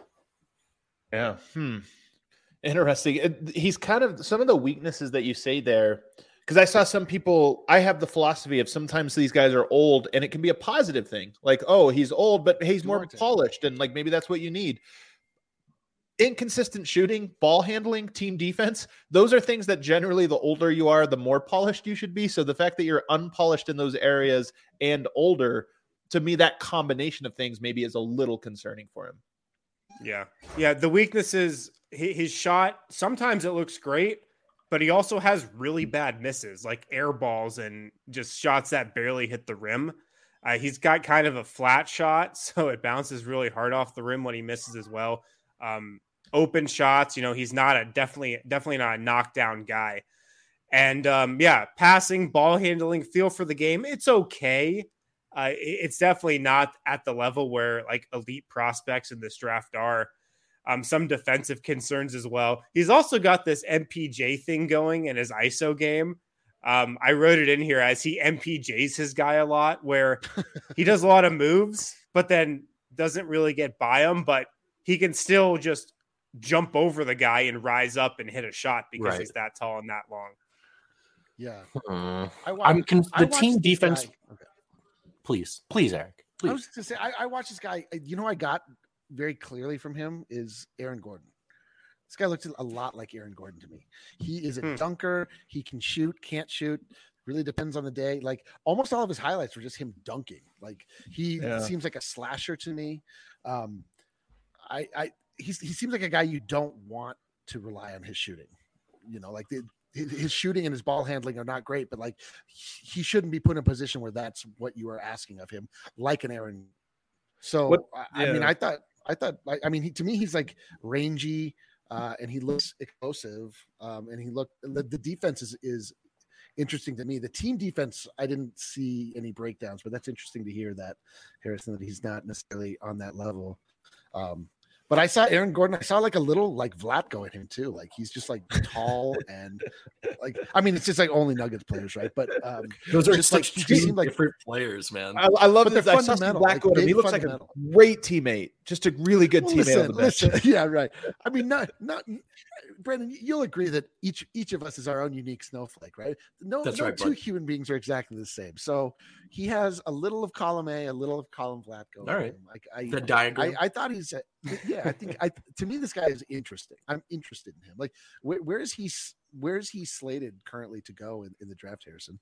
Yeah. Hmm. Interesting. It- He's kind of some of the weaknesses that you say there. Because I saw some people, I have the philosophy of sometimes these guys are old and it can be a positive thing. Like, oh, he's old, but he's more Duarte. polished. And like, maybe that's what you need. Inconsistent shooting, ball handling, team defense. Those are things that generally the older you are, the more polished you should be. So the fact that you're unpolished in those areas and older, to me, that combination of things maybe is a little concerning for him. Yeah. Yeah. The weakness is hi- his shot. Sometimes it looks great, but he also has really bad misses, like air balls and just shots that barely hit the rim. Uh, he's got kind of a flat shot, so it bounces really hard off the rim when he misses as well. Um, open shots, you know, he's not a definitely, definitely not a knockdown guy. And um, yeah, passing, ball handling, feel for the game, it's okay. Uh, it- it's definitely not at the level where like elite prospects in this draft are. Um, some defensive concerns as well. He's also got this M P J thing going in his I S O game. Um, I wrote it in here as he M P Js his guy a lot, where he does a lot of moves, but then doesn't really get by him, but he can still just jump over the guy and rise up and hit a shot because Right. he's that tall and that long. Yeah. Hmm. I wa- I'm con- I the watched team this defense. guy- okay. Please, please, Eric. Please. I was going to say, I, I watched this guy. You know, I got very clearly from him is Aaron Gordon. This guy looks a lot like Aaron Gordon to me. He is a hmm. dunker. He can shoot, can't shoot. Really depends on the day. Like almost all of his highlights were just him dunking. Like he yeah. seems like a slasher to me. Um, I, I, he's, he seems like a guy you don't want to rely on his shooting. You know, like the, his shooting and his ball handling are not great, but like he shouldn't be put in a position where that's what you are asking of him, like an Aaron. So what, yeah. I mean, I thought, I thought, I mean, he, to me, he's like rangy uh, and he looks explosive. Um, and he looked, the, the defense is, is interesting to me. The team defense, I didn't see any breakdowns, but that's interesting to hear that Harrison, that he's not necessarily on that level. Um, But I saw Aaron Gordon. I saw like a little like Vlatko in him too. Like he's just like tall and like I mean it's just like only Nuggets players, right? But um, those are just such like two different like, players, man. I, I love this. I saw Vlatko like, he looks like a great teammate, just a really good teammate listen, on the bench. Listen, yeah, right. I mean, not not Brandon. You'll agree that each each of us is our own unique snowflake, right? No, That's no right, two bud. human beings are exactly the same. So he has a little of column A, a little of column Vlatko. All right, like I, the diagram. I, I thought he's. A, yeah, I think I to me this guy is interesting. I'm interested in him. Like where, where is he where is he slated currently to go in, in the draft, Harrison?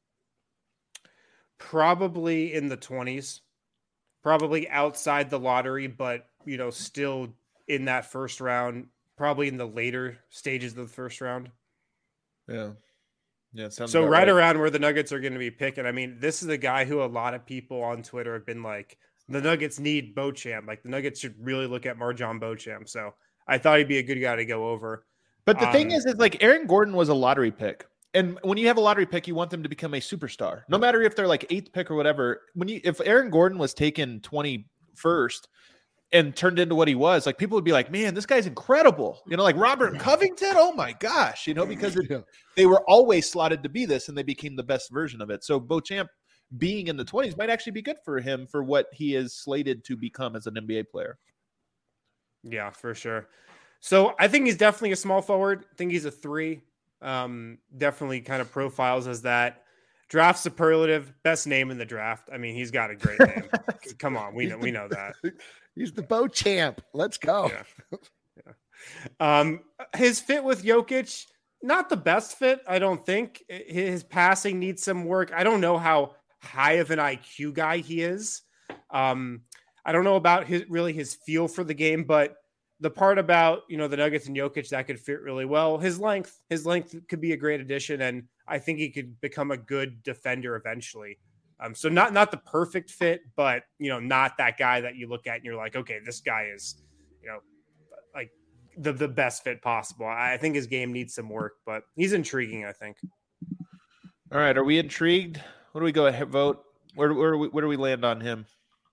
Probably in the twenties. Probably outside the lottery, but you know, still in that first round, probably in the later stages of the first round. Yeah. Yeah, it sounds so right, right around where the Nuggets are going to be picking. I mean, this is a guy who a lot of people on Twitter have been like, the Nuggets need Beauchamp. Like the Nuggets should really look at Marjon Beauchamp. So I thought he'd be a good guy to go over. But the um, thing is, is like Aaron Gordon was a lottery pick. And when you have a lottery pick, you want them to become a superstar. No matter if they're like eighth pick or whatever. When you if Aaron Gordon was taken twenty-first and turned into what he was, like people would be like, man, this guy's incredible. You know, like Robert Covington. Oh my gosh. You know, because it, they were always slotted to be this and they became the best version of it. So Beauchamp being in the twenties might actually be good for him for what he is slated to become as an N B A player. Yeah, for sure. So I think he's definitely a small forward. I think he's a three. Um, definitely kind of profiles as that. Draft superlative, best name in the draft. I mean, he's got a great name. Come on, we know we know that. He's the Beauchamp. Let's go. Yeah. Yeah. Um, his fit with Jokic, not the best fit, I don't think. His passing needs some work. I don't know how high of an I Q guy he is. Um, I don't know about his really his feel for the game, but the part about, you know, the Nuggets and Jokic that could fit really well, his length, his length could be a great addition. And I think he could become a good defender eventually. Um, so not, not the perfect fit, but, you know, not that guy that you look at and you're like, okay, this guy is, you know, like the, the best fit possible. I think his game needs some work, but he's intriguing, I think. All right. Are we intrigued? What do we go ahead vote? Where, where, do we, where do we land on him?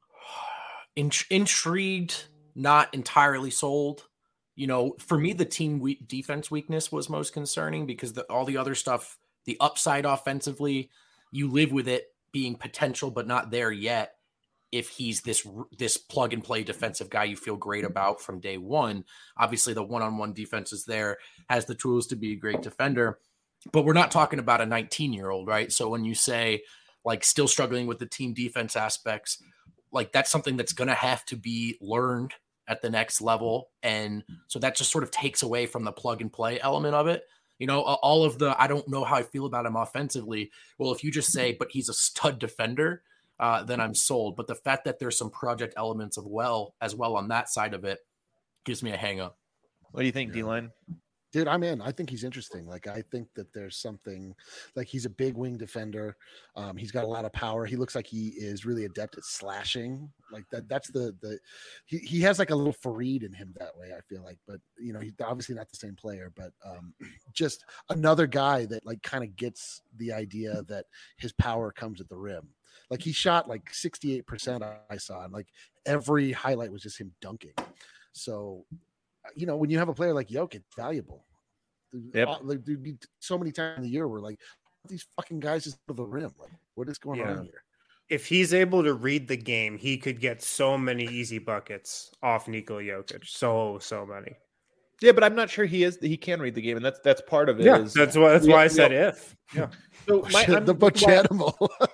Int- intrigued. Not entirely sold. You know, for me, the team we- defense weakness was most concerning because the, all the other stuff, the upside offensively, you live with it being potential, but not there yet. If he's this this plug and play defensive guy you feel great about from day one, obviously the one-on-one defense is there, has the tools to be a great defender, but we're not talking about a nineteen year old, right? So when you say like still struggling with the team defense aspects, like that's something that's going to have to be learned at the next level. And so that just sort of takes away from the plug and play element of it. You know, all of the, I don't know how I feel about him offensively. Well, if you just say, but he's a stud defender, uh, then I'm sold. But the fact that there's some project elements of well, as well on that side of it gives me a hang up. What do you think, yeah. D-Line? Dude, I'm in. I think he's interesting. Like, I think that there's something like he's a big wing defender. Um, he's got a lot of power. He looks like he is really adept at slashing. Like that. That's the the. He, he has like a little Fareed in him that way. I feel like, but you know, he's obviously not the same player. But um, just another guy that like kind of gets the idea that his power comes at the rim. Like he shot like sixty-eight percent. I saw, and like every highlight was just him dunking. So. You know, when you have a player like Jokic, it's valuable. Yep. Like, there'd be so many times in the year where like these fucking guys just to the rim. Like, what is going yeah. on here? If he's able to read the game, he could get so many easy buckets off Nikola Jokic. So, so many. Yeah, but I'm not sure he is. He can read the game, and that's that's part of it. Yeah, is, that's why that's we, why I said we, if. Yeah. So my, the Beauchamp.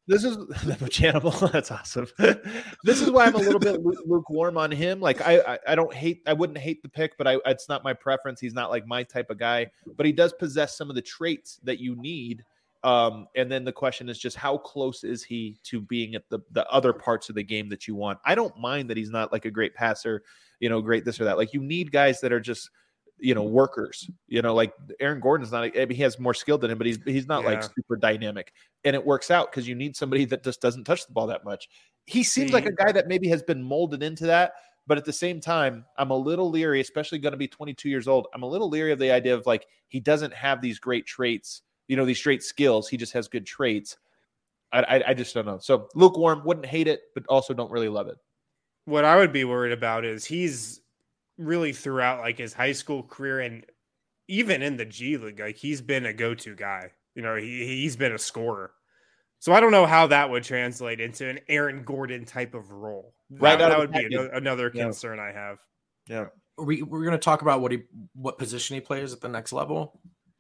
This is the Bojanimal. That's awesome. This is why I'm a little bit lukewarm on him. Like I, I, I don't hate. I wouldn't hate the pick, but I, it's not my preference. He's not like my type of guy. But he does possess some of the traits that you need. Um, and then the question is just how close is he to being at the the other parts of the game that you want? I don't mind that he's not like a great passer, you know, great this or that. Like you need guys that are just, you know, workers, you know, like Aaron Gordon's not, I mean, he has more skill than him, but he's, he's not yeah. like super dynamic, and it works out because you need somebody that just doesn't touch the ball that much. He seems See, like a guy that maybe has been molded into that, but at the same time, I'm a little leery, especially going to be twenty-two years old. I'm a little leery of the idea of like, he doesn't have these great traits, you know, these great skills. He just has good traits. I, I, I just don't know. So lukewarm, wouldn't hate it, but also don't really love it. What I would be worried about is he's really throughout like his high school career and even in the G League, like he's been a go-to guy. You know, he he's been a scorer. So I don't know how that would translate into an Aaron Gordon type of role. Right, that, that would be another, another yeah. concern I have. Yeah, we we're going to talk about what he what position he plays at the next level.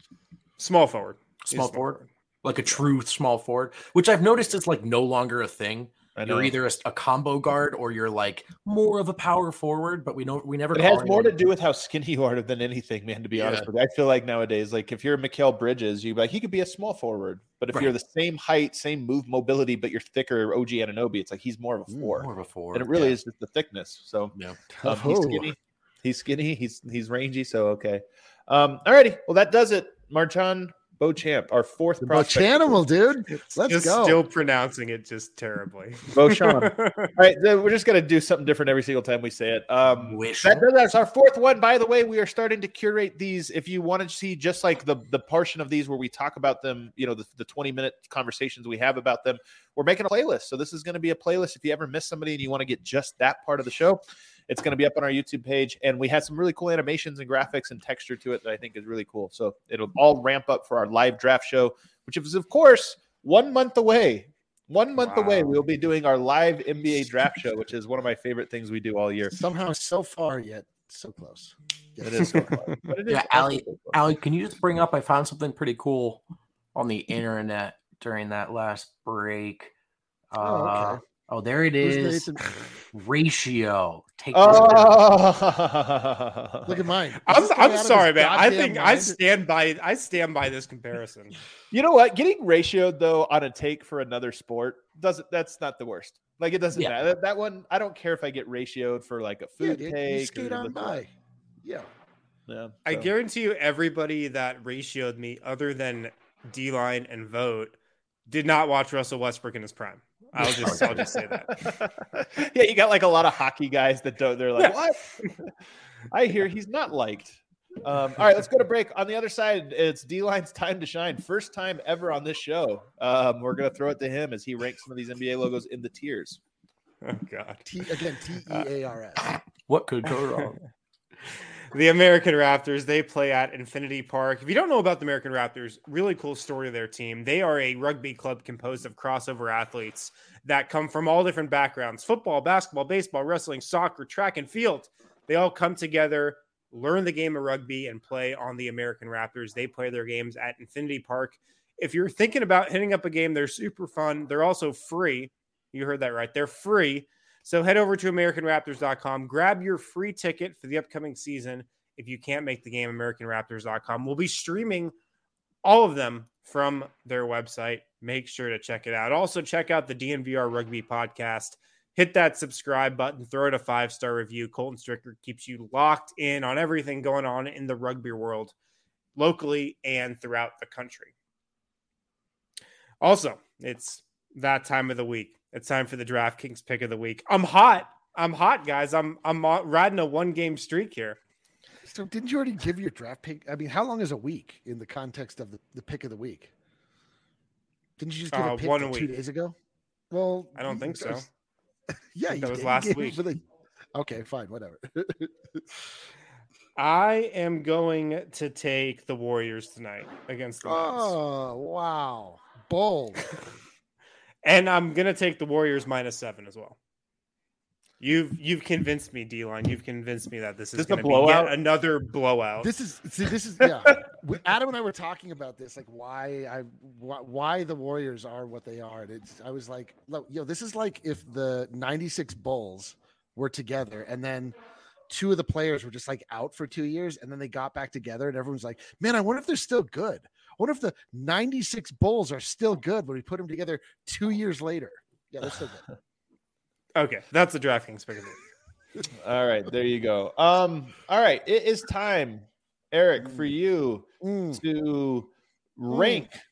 Small forward, small, small forward. forward, like a true small forward, which I've noticed is like no longer a thing. You're either a, a combo guard or you're like more of a power forward, but we know we never. It has more to do with how skinny you are than anything, man. To be yeah. honest with you, I feel like nowadays, like if you're Mikal Bridges, you like he could be a small forward, but if right. you're the same height, same move, mobility, but you're thicker, O G Anunoby, it's like he's more of a four. More of a four, and it really yeah. is just the thickness. So yeah, um, he's skinny, he's skinny, he's he's rangy. So okay, um, alrighty, well that does it, Marchand Beauchamp, our fourth the prospect. Animal, dude. Let's just go. Still pronouncing it just terribly. Beauchamp. All right, we're just gonna do something different every single time we say it. Um, that, that's our fourth one. By the way, we are starting to curate these. If you want to see just like the the portion of these where we talk about them, you know, the, the twenty minute conversations we have about them, we're making a playlist. So this is going to be a playlist. If you ever miss somebody and you want to get just that part of the show, it's going to be up on our YouTube page. And we had some really cool animations and graphics and texture to it that I think is really cool. So it'll all ramp up for our live draft show, which is, of course, one month away. One month wow. away, we'll be doing our live N B A draft show, which is one of my favorite things we do all year. Somehow so far, yet so close. Yeah, it is so far. But it is yeah, Allie, so Allie, can you just bring up, I found something pretty cool on the internet during that last break. Uh, oh, okay. Oh, there it is. Ratio. Take oh. Look at mine. I'm, I'm sorry, man. I think mind? I stand by I stand by this comparison. You know what? Getting ratioed though on a take for another sport doesn't that's not the worst. Like it doesn't yeah. matter. That, that one, I don't care if I get ratioed for like a food yeah, take. You skate on by. Yeah. Yeah. So. I guarantee you everybody that ratioed me other than D-Line and Vote did not watch Russell Westbrook in his prime. I'll just I'll just say that. Yeah, you got like a lot of hockey guys that don't. They're like, what? I hear he's not liked. Um, all right, let's go to break. On the other side, it's D-Line's time to shine. First time ever on this show. Um, we're gonna throw it to him as he ranks some of these N B A logos in the tiers. Oh God! T again, T E A R S. Uh, what could go wrong? The American Raptors, they play at Infinity Park. If you don't know about the American Raptors, really cool story of their team. They are a rugby club composed of crossover athletes that come from all different backgrounds: football, basketball, baseball, wrestling, soccer, track, and field. They all come together, learn the game of rugby, and play on the American Raptors. They play their games at Infinity Park. If you're thinking about hitting up a game, they're super fun. They're also free. You heard that right. They're free. So head over to American Raptors dot com, grab your free ticket for the upcoming season. If you can't make the game, American Raptors dot com. We'll be streaming all of them from their website. Make sure to check it out. Also, check out the D N V R Rugby podcast. Hit that subscribe button. Throw it a five-star review. Colton Stricker keeps you locked in on everything going on in the rugby world, locally and throughout the country. Also, it's that time of the week. It's time for the DraftKings pick of the week. I'm hot. I'm hot, guys. I'm I'm riding a one-game streak here. So didn't you already give your draft pick? I mean, how long is a week in the context of the, the pick of the week? Didn't you just give uh, a pick one two week. days ago? Well, I don't think so. Yeah, that was did. last week. The... Okay, fine, whatever. I am going to take the Warriors tonight against the Nets. Oh, wow. Bold. And I'm going to take the Warriors minus seven as well. You've you've convinced me, D-Line. You've convinced me that this is This going a to be blowout? yet another blowout. This is see, this is yeah. We, Adam and I were talking about this, like why I why, why the Warriors are what they are. And it's I was like, look, yo, this is like if the ninety-six Bulls were together and then two of the players were just like out for two years and then they got back together and everyone's like, man, I wonder if they're still good. I wonder if the ninety-six Bulls are still good when we put them together two years later. Yeah, they're still good. Okay, that's the DraftKings pick of it. All right, there you go. Um, all right, it is time, Eric, for you Mm. to rank mm.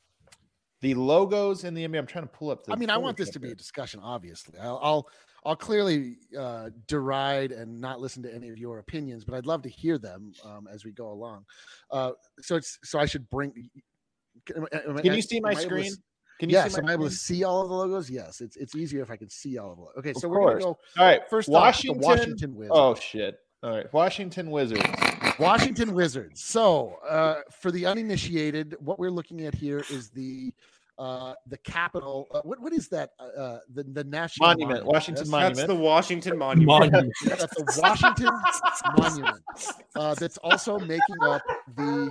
the logos in the N B A. I'm trying to pull up. The I mean, I want this to be a discussion. Obviously, I'll I'll, I'll clearly uh, deride and not listen to any of your opinions, but I'd love to hear them um, as we go along. Uh, so it's so I should bring. Can, can you see my screen? Can you yes, see am I able to see all of the logos? Yes, it's it's easier if I can see all of them. Okay, so of we're course. gonna go. All right, first Washington, off, the Washington Wizards. Oh shit! All right, Washington Wizards. Washington Wizards. So uh, for the uninitiated, what we're looking at here is the uh, the capital. Uh, what what is that? Uh, the the national monument, monument. Washington that's, Monument. That's the Washington Monument. monument. That's the Washington Monument. Uh, that's also making up the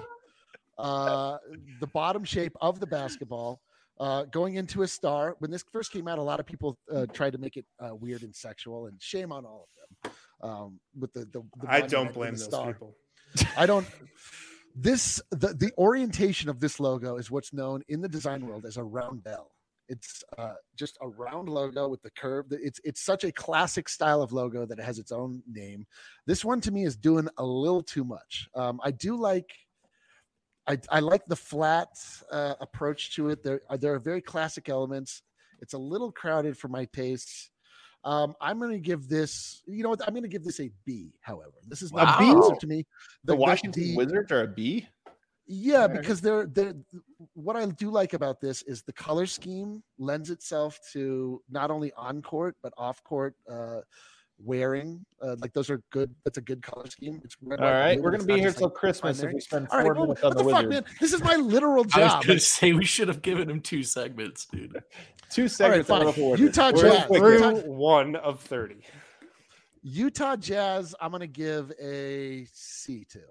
uh, the bottom shape of the basketball. Uh, going into a star. When this first came out, a lot of people uh, tried to make it uh, weird and sexual, and shame on all of them. Um, with the, the, the I don't blame those star. people. I don't. This the the orientation of this logo is what's known in the design world as a round bell. It's uh, just a round logo with the curve. It's it's such a classic style of logo that it has its own name. This one to me is doing a little too much. Um, I do like. I, I like the flat uh, approach to it. There are, there are very classic elements. It's a little crowded for my tastes. Um, I'm going to give this, you know what? I'm going to give this a B, however. This is not wow. B to me. The, the Washington the, Wizards are a B? Yeah, because they're, they're, what I do like about this is the color scheme lends itself to not only on-court, but off-court uh wearing uh, like those are good. That's a good color scheme. It's red, all right. Blue, we're gonna be here till like Christmas primary. If we spend four right, minutes well, on the, the fuck, man? This is my literal job. I was gonna say we should have given him two segments, dude. Two segments. Right, Utah Jazz through Utah, one of thirty. Utah Jazz. I'm gonna give a C to.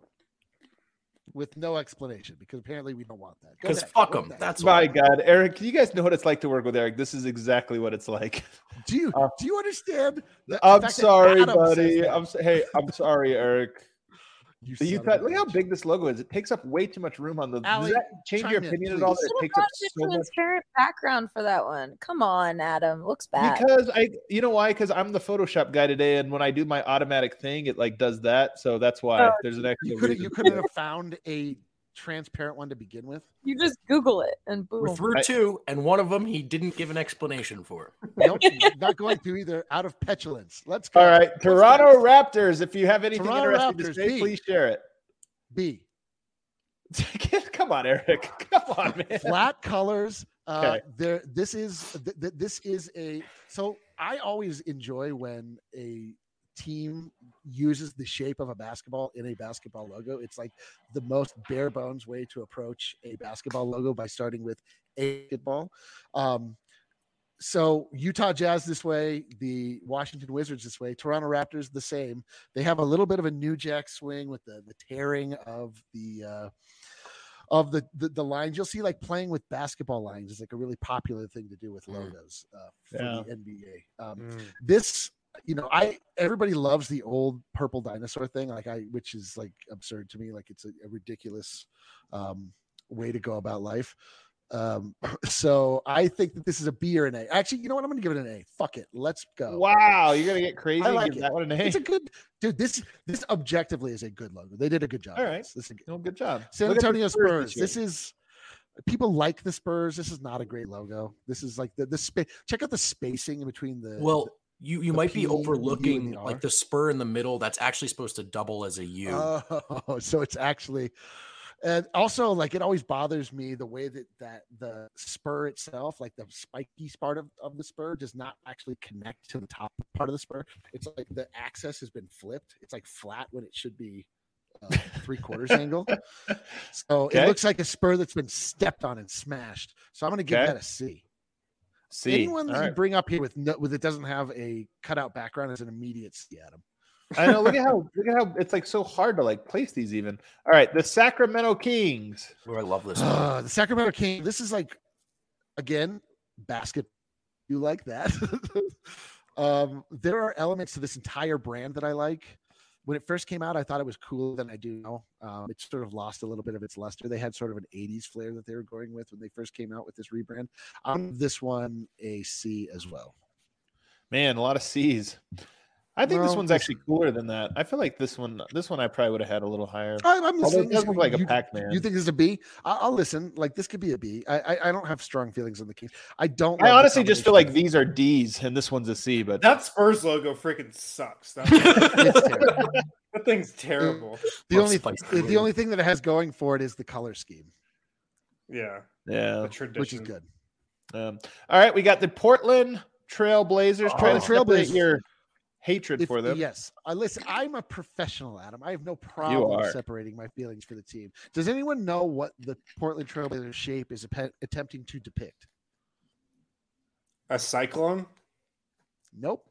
With no explanation, because apparently we don't want that. Because fuck them. That's my why. God, Eric. Do you guys know what it's like to work with Eric? This is exactly what it's like. Do you uh, do you understand? The, I'm sorry, buddy. I'm hey, I'm sorry, Eric. You the Utah, look how big this logo is. It takes up way too much room on the. Allie, does that change your opinion in, at all? That it takes up so much transparent background for that one. Come on, Adam. Looks bad. Because I, you know why? Because I'm the Photoshop guy today, and when I do my automatic thing, it like does that. So that's why oh, there's an extra. You couldn't. You couldn't have found a transparent one to begin with. You just Google it and boom. We're through two, and one of them he didn't give an explanation for. Nope, not going to either. Out of petulance. Let's go. All right, Let's Toronto go. Raptors. If you have anything Toronto interesting Raptors, to say, B. please share it. B. Come on, Eric. Come on, man. Flat colors. Uh, okay. There. This is. Th- th- this is a. So I always enjoy when a team uses the shape of a basketball in a basketball logo. It's like the most bare bones way to approach a basketball logo by starting with a basketball. Um, so Utah Jazz this way, the Washington Wizards this way, Toronto Raptors the same. They have a little bit of a New Jack swing with the the tearing of the uh, of the, the the lines. You'll see like playing with basketball lines is like a really popular thing to do with logos uh, for yeah. the N B A. Um, mm. This. You know, I everybody loves the old purple dinosaur thing, like I, which is like absurd to me. Like it's a, a ridiculous um, way to go about life. Um, so I think that this is a B or an A. Actually, you know what? I'm going to give it an A. Fuck it, let's go. Wow, you're gonna get crazy. I like give it. That one an A. It's a good dude. This this objectively is a good logo. They did a good job. All right, this. This is a good, no, good job. San Look Antonio Spurs. This, this is. People like the Spurs. This is not a great logo. This is like the the space. Check out the spacing in between the. Well. You you might P, be overlooking the like the spur in the middle. That's actually supposed to double as a U. Oh, so it's actually, and also like it always bothers me the way that that the spur itself, like the spiky part of, of the spur, does not actually connect to the top part of the spur. It's like the axis has been flipped. It's like flat when it should be uh, three quarters angle. So okay. It looks like a spur that's been stepped on and smashed. So I'm going to give okay. that a C. C. Anyone that All you right. bring up here with no, with it doesn't have a cutout background is an immediate C, Adam. I know. Look at how look at how it's like so hard to like place these even. All right, the Sacramento Kings. Oh, I love this one. Uh, the Sacramento King. This is like, again, basket. You like that? um, there are elements to this entire brand that I like. When it first came out, I thought it was cooler than I do now. Um, it sort of lost a little bit of its luster. They had sort of an eighties flair that they were going with when they first came out with this rebrand. I'm this one a C as well. Man, a lot of C's. I think this Well, one's this- actually cooler than that. I feel like this one, this one, I probably would have had a little higher. I, I'm Although listening. it does look like a you, Pac-Man. you think this is a B? I, I'll listen. Like this could be a B. I, I I don't have strong feelings on the Kings. I don't. I love the honestly just feel like combination. these are D's and this one's a C. But That Spurs logo freaking sucks. That, It's terrible. that thing's terrible. The Love only spicy the blue. only thing that it has going for it is the color scheme, Yeah, yeah. the tradition. which is good. Um, all right, we got the Portland Trail Blazers. Try Oh, to Trail separate Blazers. your hatred If- for them. Yes, I listen. I'm a professional, Adam. I have no problem are. separating my feelings for the team. Does anyone know what the Portland Trailblazers shape is appe- attempting to depict? A cyclone? Nope.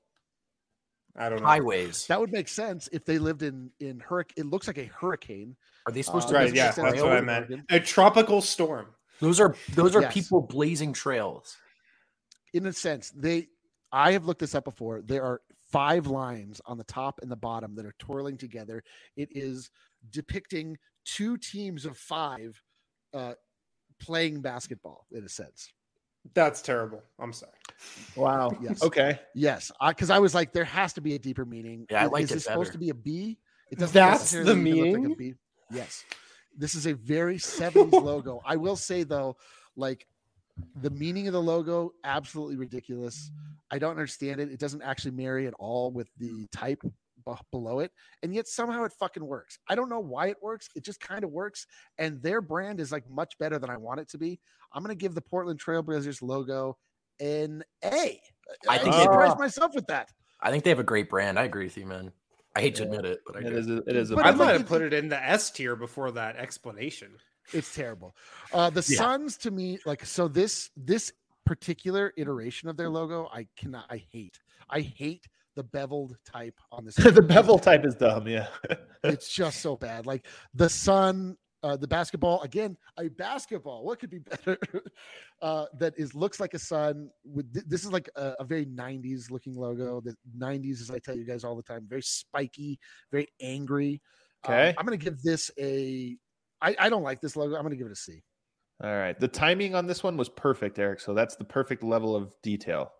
I don't know. Highways. That would make sense if they lived in in hurricane. It looks like a hurricane. Are they supposed Uh, to? Right, doesn't yeah, make sense that's for what I Oregon. meant. A tropical storm. Those are those are Yes. people blazing trails. In a sense, they. I have looked this up before. There are five lines on the top and the bottom that are twirling together. It is depicting two teams of five uh, playing basketball. In a sense, That's terrible. I'm sorry. Wow. Yes. Okay. yes, because I, I was like, there has to be a deeper meaning. Yeah, I Is- liked Is it this supposed better. to be a B? It doesn't That's necessarily the even look like a meaning? B. Yes, this is a very seventies logo. I will say though, like the meaning of the logo, absolutely ridiculous. I don't understand it. It doesn't actually marry at all with the type b- below it, and yet somehow it fucking works. I don't know why it works. It just kind of works, and their brand is like much better than I want it to be. I'm gonna give the Portland Trailblazers logo an A. I think they- surprised myself with that. I think they have a great brand. I agree with you, man. I hate to Yeah. admit it, but I It agree. is. A, it is. A But I it's might like have it- put it in the S tier before that explanation. It's terrible. Uh, the Yeah. Suns to me, like, so this this particular iteration of their logo, I cannot. I hate. I hate the beveled type on this. the bevel type is dumb. Yeah. It's just so bad. Like the sun, uh, the basketball again. A basketball. What could be better? uh, that is looks like a sun. With th- this is like a, a very nineties looking logo. The nineties, as I tell you guys all the time, very spiky, very angry. Um, Okay. I'm gonna give this a. I, I don't like this logo. I'm gonna give it a C. All right. The timing on this one was perfect, Eric. So that's the perfect level of detail.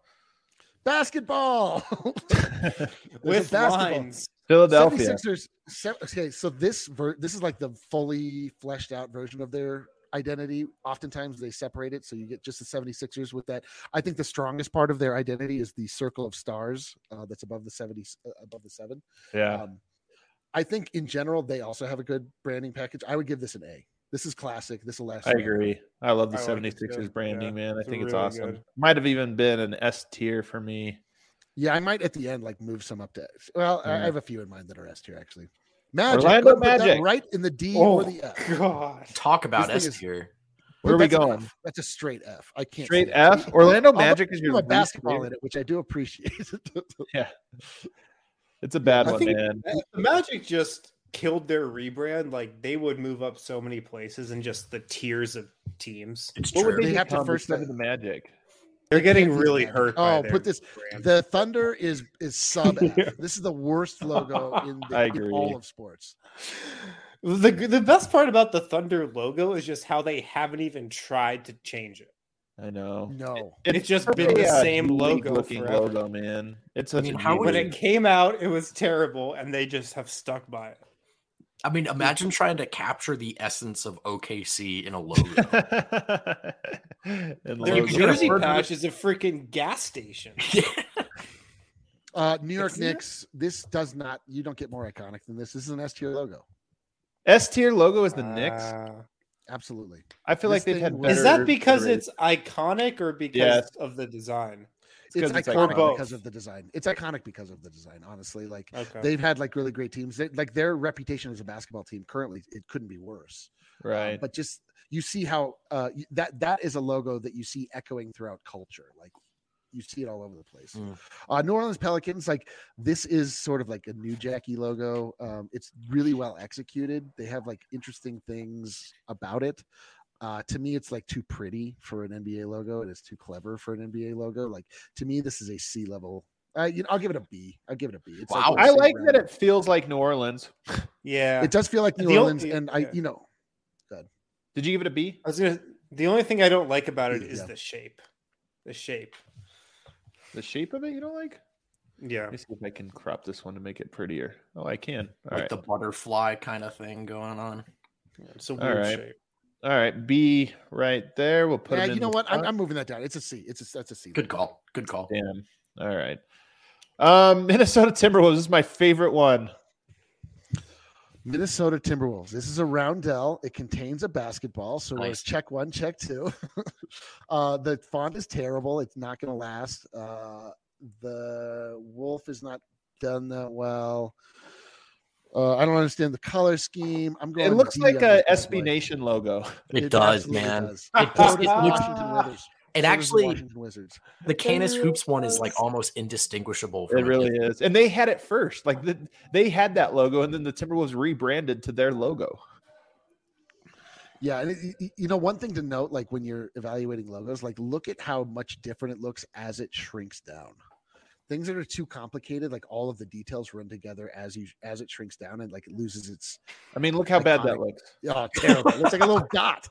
Basketball. There's a With basketball. lines. Philadelphia. seventy-sixers. se- Okay, so this ver- this is like the fully fleshed out version of their identity. Oftentimes they separate it, so you get just the seventy-sixers with that. I think the strongest part of their identity is the circle of stars uh, that's above the seventy, uh, above the seven. Yeah. Um, I think in general they also have a good branding package. I would give this an A. This is classic. This will last. I forever. agree. I love the I like it seventy-sixers too. branding, Yeah, man. I it's think it's really awesome. good. Might have even been an S tier for me. Yeah, I might at the end like move some up to. Well, I- I Yeah. have a few in mind that are S tier actually. Magic, Orlando go put that Magic. right in the D Oh, or the F. God. Talk about This S thing is- tier. Where are we That's an going? F. That's a straight F. I can't Straight see it. F. Orlando Although Magic is there's your a least basketball favorite? in it, which I do appreciate. Yeah. It's a bad I one, think man. the Magic just killed their rebrand. Like they would move up so many places in just the tiers of teams. It's What would true. they They have to become first- instead of the Magic? They're getting can't be really bad. hurt. by Oh, their put this. brand. The Thunder is is sub F. Yeah. This is the worst logo in, the, I in agree. all of sports. The the best part about the Thunder logo is just how they haven't even tried to change it. I know. No. It's just been the same logo looking forever. logo, man. It's I such mean, a how would When neat it came out, it was terrible, and they just have stuck by it. I mean, imagine trying to capture the essence of O K C in a logo. And Their logo. jersey Get a patch is a freaking gas station. Uh, New York Isn't it? Knicks. This does not. You don't get more iconic than this. This is an S tier logo. S tier logo is the Knicks. Uh, Absolutely. I feel this like they've thing had was- better. is that because iterations. it's iconic or because Yes. of the design? It's, 'cause it's iconic iconic. because of the design. It's iconic because of the design. Honestly, like Okay. they've had like really great teams. They, like their reputation as a basketball team currently, it couldn't be worse. Um, right? but just you see how uh, y- that that is a logo that you see echoing throughout culture. Like you see it all over the place. Mm. Uh, New Orleans Pelicans, like this is sort of like a New Jackie logo. Um, it's really well executed. They have like interesting things about it. Uh, to me, it's like too pretty for an N B A logo. It is too clever for an N B A logo. Like to me, this is a C level. Uh, you know, I'll give it a B. I'll give it a B. It's Wow. like I like that it feels like New Orleans. Yeah, it does feel like New The Orleans, only- and I, yeah. you know, Did you give it a B? I was gonna. The only thing I don't like about it Yeah. is the shape. The shape. The shape of it you don't like? Yeah. Let me see if I can crop this one to make it prettier. Oh, I can. All Like right. the butterfly kind of thing going on. It's a All weird right. shape. All right. B right there. We'll put yeah. it in You know the what? I'm, front. I'm moving that down. It's a C. It's a that's a C. Good call. Good call. Damn. All right. Um, Minnesota Timberwolves this is my favorite one. Minnesota Timberwolves. This is a roundel. It contains a basketball. So we're Nice. check one, check two. uh, the font is terrible. It's not going to last. Uh, the wolf is not done that well. Uh, I don't understand the color scheme. I'm going. It looks D like on a this bad S B boy. Nation logo. It, does, absolutely man. does. It, So just, does it the looks. Washington Wizards. It So does the actually. Washington Wizards. The Canis Hoops one is like almost indistinguishable. From It really is. And they had it first. Like the, they had that logo, and then the Timberwolves rebranded to their logo. Yeah, and it, it- you know, one thing to note, like when you're evaluating logos, like look at how much different it looks as it shrinks down. Things that are too complicated, like all of the details run together as you as it shrinks down, and like it loses its. I mean, look how bad that Iconic. looks. Oh, terrible! It looks like a little dot.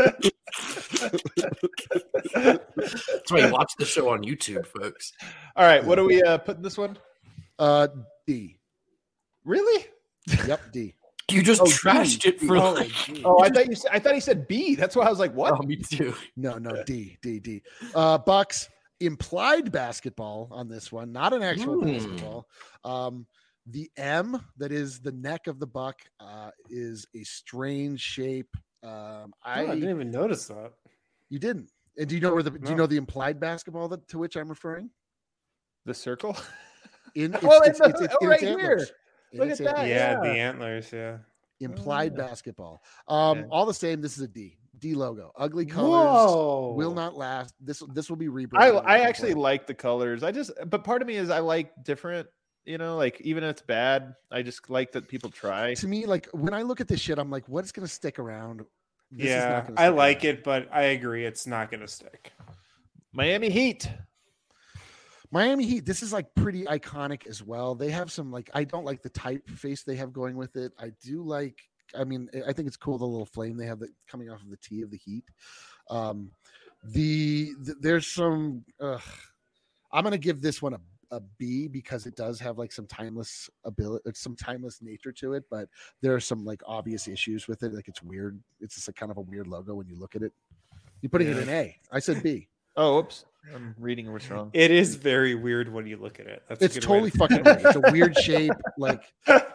That's why you watch the show on YouTube, folks. All right. What are we uh, putting this one? Uh, D. Really? Yep, D. You just Oh, trashed D. it for Oh, like. D. Oh, I thought you said I thought he said B. That's why I was like, what? Oh, me too. No, no, D, D, D. Uh, Bucks implied basketball on this one, not an actual Hmm. basketball. Um, the M that is the neck of the buck uh, is a strange shape. Um, I, Oh, I didn't even notice that. you didn't. And do you know where the do you No. know the implied basketball that to which I'm referring? The circle? In it's, Oh, it's, in it's, the- it's, oh, in right its here. antlers. In Look its at that. antlers. Yeah, yeah. the antlers. Yeah. Implied Oh, yeah. basketball. Um, Okay. all the same, this is a D. D logo. Ugly colors. Whoa. Will not last. This this will be I rebranded. I actually like the colors. I just but part of me is I like different, you know, like even if it's bad, I just like that people try. To me, like when I look at this shit, I'm like, what's going to stick around? This is not Yeah, gonna I stick like around. it, but I agree it's not going to stick. Miami Heat. Miami Heat. This is like pretty iconic as well. They have some like I don't like the typeface they have going with it. I do like. I mean, I think it's cool the little flame they have that coming off of the T of the Heat. Um, the, the there's some. Uh, I'm gonna give this one a, a B because it does have like some timeless ability, some timeless nature to it. But there are some like obvious issues with it. Like it's weird. It's just a kind of a weird logo when you look at it. You're putting it Yeah. in A. I said B. Oh, oops. I'm reading what's wrong. It is very weird when you look at it. That's a It's good way totally to- fucking weird. It's a weird shape. Like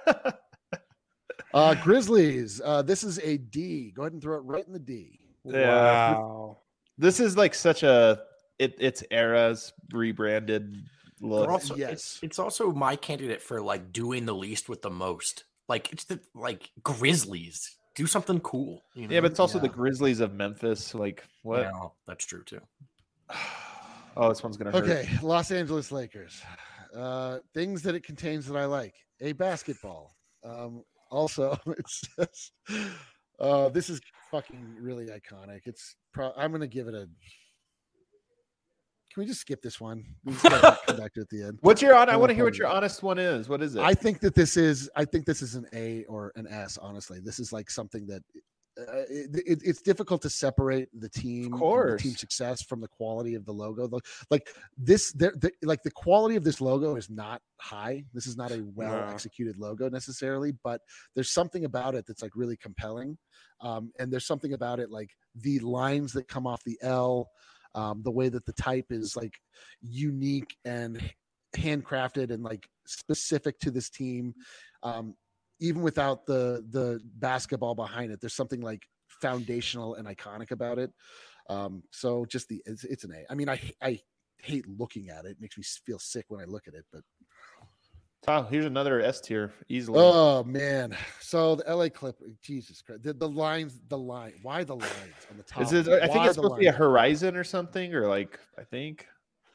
uh Grizzlies. Uh this is a D. Go ahead and throw it right in the D. Yeah. Wow. This is like such a it it's eras rebranded They're look. also, yes. it's, it's also my candidate for like doing the least with the most. Like it's the like Grizzlies. Do something cool. You know? Yeah, but it's also the Yeah. Grizzlies of Memphis. Like what? Yeah, that's true too. Oh, this one's gonna hurt. Okay, Los Angeles Lakers. Uh things that it contains that I like. A basketball. Um also it says uh this is fucking really iconic. It's pro- I'm gonna give it a can we just skip this one? We just gotta come back to it at the end. What's your on? I I want to love hear what Kobe. your honest one is. What is it? I think that this is. I think this is an A or an S. Honestly, this is like something that uh, it, it, it's difficult to separate the team, and the course. team success from the quality of the logo. The- Like this, there, the, like the quality of this logo is not high. This is not a well No. executed logo necessarily, but there's something about it that's like really compelling. Um, and there's something about it like the lines that come off the L. Um, the way that the type is like unique and handcrafted and like specific to this team, um, even without the the basketball behind it. There's something like foundational and iconic about it. Um, so just the it's, it's an A. I mean, I I hate looking at it. It makes me feel sick when I look at it. But Tom, here's another S tier easily. oh man, so the L A Clippers. Jesus Christ, the, the lines, the line. Why the lines on the top? is it? I think Why it's the supposed to be a lines? horizon or something, or like I think.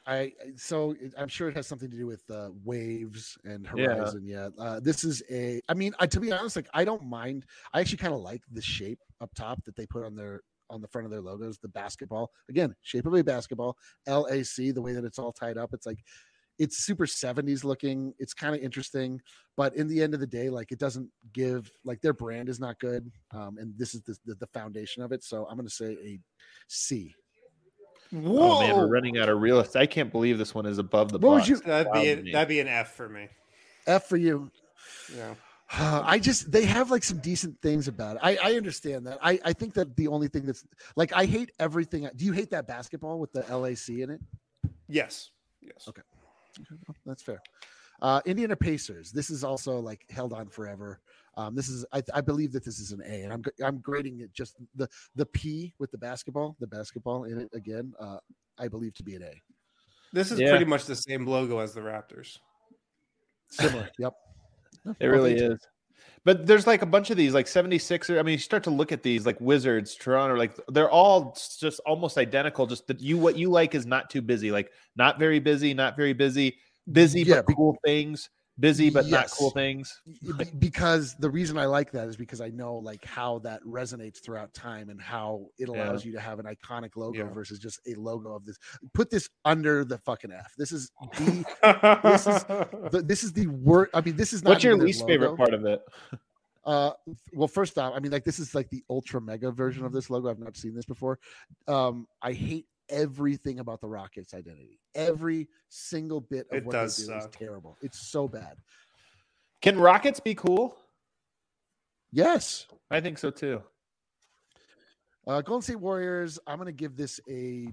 I so I'm sure it has something to do with uh, waves and horizon. Yeah, yeah. Uh, this is a. I mean, I, to be honest, like I don't mind. I actually kind of like the shape up top that they put on their on the front of their logos. The basketball, again, shape of a basketball. L A C, the way that it's all tied up. It's like it's super seventies looking. It's kind of interesting, but in the end of the day, like it doesn't give like their brand is not good, um, and this is the, the the foundation of it. So I'm going to say a C. Whoa. Oh man, we're running out of real estate. I can't believe this one is above the what box. Would you, that'd be a, that'd be an F for me. F for you. Yeah. Uh, I just they have like some decent things about it. I, I understand that. I, I think that the only thing that's like I hate everything. Do you hate that basketball with the L A C in it? Yes. Yes. Okay. That's fair. Uh, Indiana Pacers. This is also like held on forever. Um, this is, I, I believe that this is an A, and I'm I'm grading it just the the P with the basketball, the basketball in it again. Uh, I believe to be an A. This is yeah. pretty much the same logo as the Raptors. Similar. Yep. It really is. But there's like a bunch of these, like seventy-sixer. I mean, you start to look at these, like Wizards, Toronto, like they're all just almost identical. Just that you, what you like is not too busy, like not very busy, not very busy, busy yeah, but cool things. Busy but yes. not cool things. Because the reason I like that is because I know like how that resonates throughout time and how it allows yeah. you to have an iconic logo yeah. versus just a logo of this. Put this under the fucking F. This is the this is the, this is the word. I mean, this is not. What's your least logo. favorite part of it? Uh, well, first off, I mean, like this is like the ultra mega version of this logo. I've not seen this before. Um, I hate everything about the Rockets' identity. Every single bit of it what does they do suck. is terrible. It's so bad. Can Rockets be cool? Yes, I think so too. Uh, Golden State Warriors. I'm going to give this a.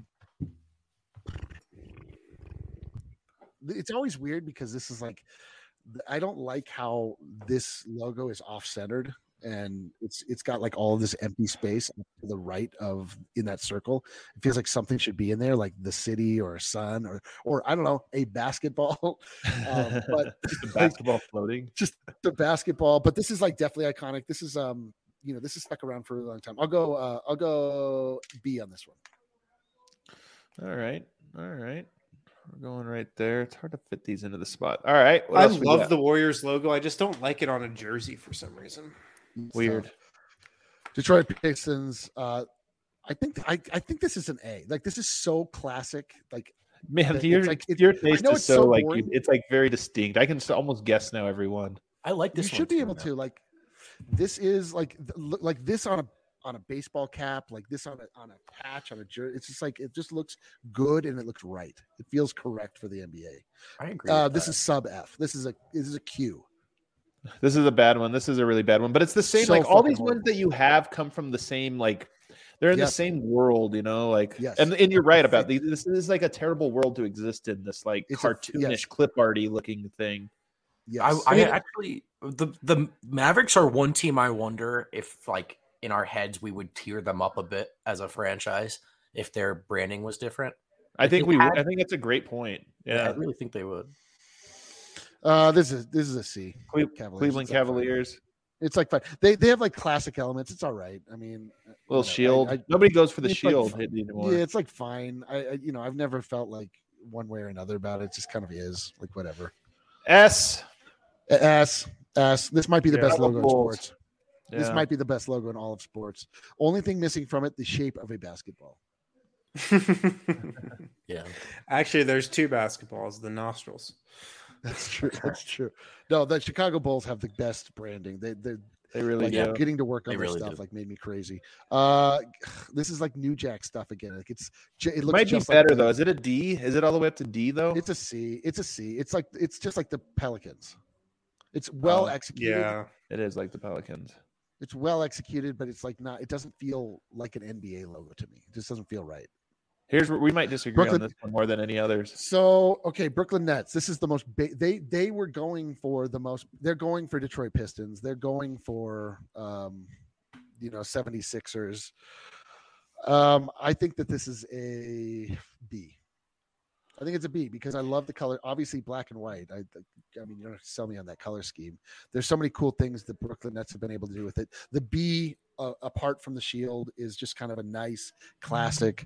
It's always weird because this is like, I don't like how this logo is off-centered. And it's it's got like all of this empty space to the right of in that circle. It feels like something should be in there, like the city or a sun or or I don't know, a basketball. Um, but the basketball like, floating, just the basketball. But this is like definitely iconic. This is um you know this is stuck around for a long time. I'll go uh, I'll go B on this one. All right, all right. We're going right there. It's hard to fit these into the spot. All right. I love the Warriors logo. I just don't like it on a jersey for some reason. Weird. So, Detroit Pistons. Uh, I think I, I think this is an A. Like this is so classic. Like man, your like, your taste is so, so like boring. It's like very distinct. I can almost guess now everyone. I like this. You should be able now. to like. This is like like this on a on a baseball cap, like this on a on a patch on a jersey. It's just like it just looks good and it looks right. It feels correct for the N B A. I agree. Uh, this that. is sub F. This is a this is a Q. This is a bad one. This is a really bad one, but it's the same. So like all these horrible. ones that you have come from the same, like they're in yep. the same world, you know, like, yes. and, and you're right about these. This is like a terrible world to exist in, this like it's cartoonish, a, yes. clip arty looking thing. Yes. I, I actually, the, the Mavericks are one team. I wonder if like in our heads, we would tier them up a bit as a franchise if their branding was different. I think we, had, I think that's a great point. Yeah. yeah, I really think they would. Uh, this is this is a C. Cle- Cavaliers. Cleveland it's Cavaliers. Like it's like fine. They they have like classic elements. It's all right. I mean, little know, shield. I, I, Nobody goes for the shield like, anymore. Yeah, it's like fine. I, I you know I've never felt like one way or another about it. It just kind of is like whatever. S S S. This might be the yeah, best logo in sports. Yeah. This might be the best logo in all of sports. Only thing missing from it, the shape of a basketball. Yeah. Actually, there's two basketballs, the nostrils. That's true. That's true. No, the Chicago Bulls have the best branding. They they they really like, do. Getting to work on they their really stuff do. like made me crazy. Uh, this is like New Jack stuff again. Like it's it looks might just be better like though. Is it a D? Is it all the way up to D though? It's a C. It's a C. It's like it's just like the Pelicans. It's well oh, executed. Yeah, it is like the Pelicans. It's well executed, but it's like not. It doesn't feel like an N B A logo to me. It just doesn't feel right. Here's where we might disagree Brooklyn, on this one more than any others. So, okay, Brooklyn Nets. This is the most. Ba- they they were going for the most. They're going for Detroit Pistons. They're going for, um, you know, seventy-sixers. Um, I think that this is a B. I think it's a B because I love the color. Obviously, black and white. I, I mean, you don't have to sell me on that color scheme. There's so many cool things that Brooklyn Nets have been able to do with it. The B, uh, apart from the shield, is just kind of a nice, classic.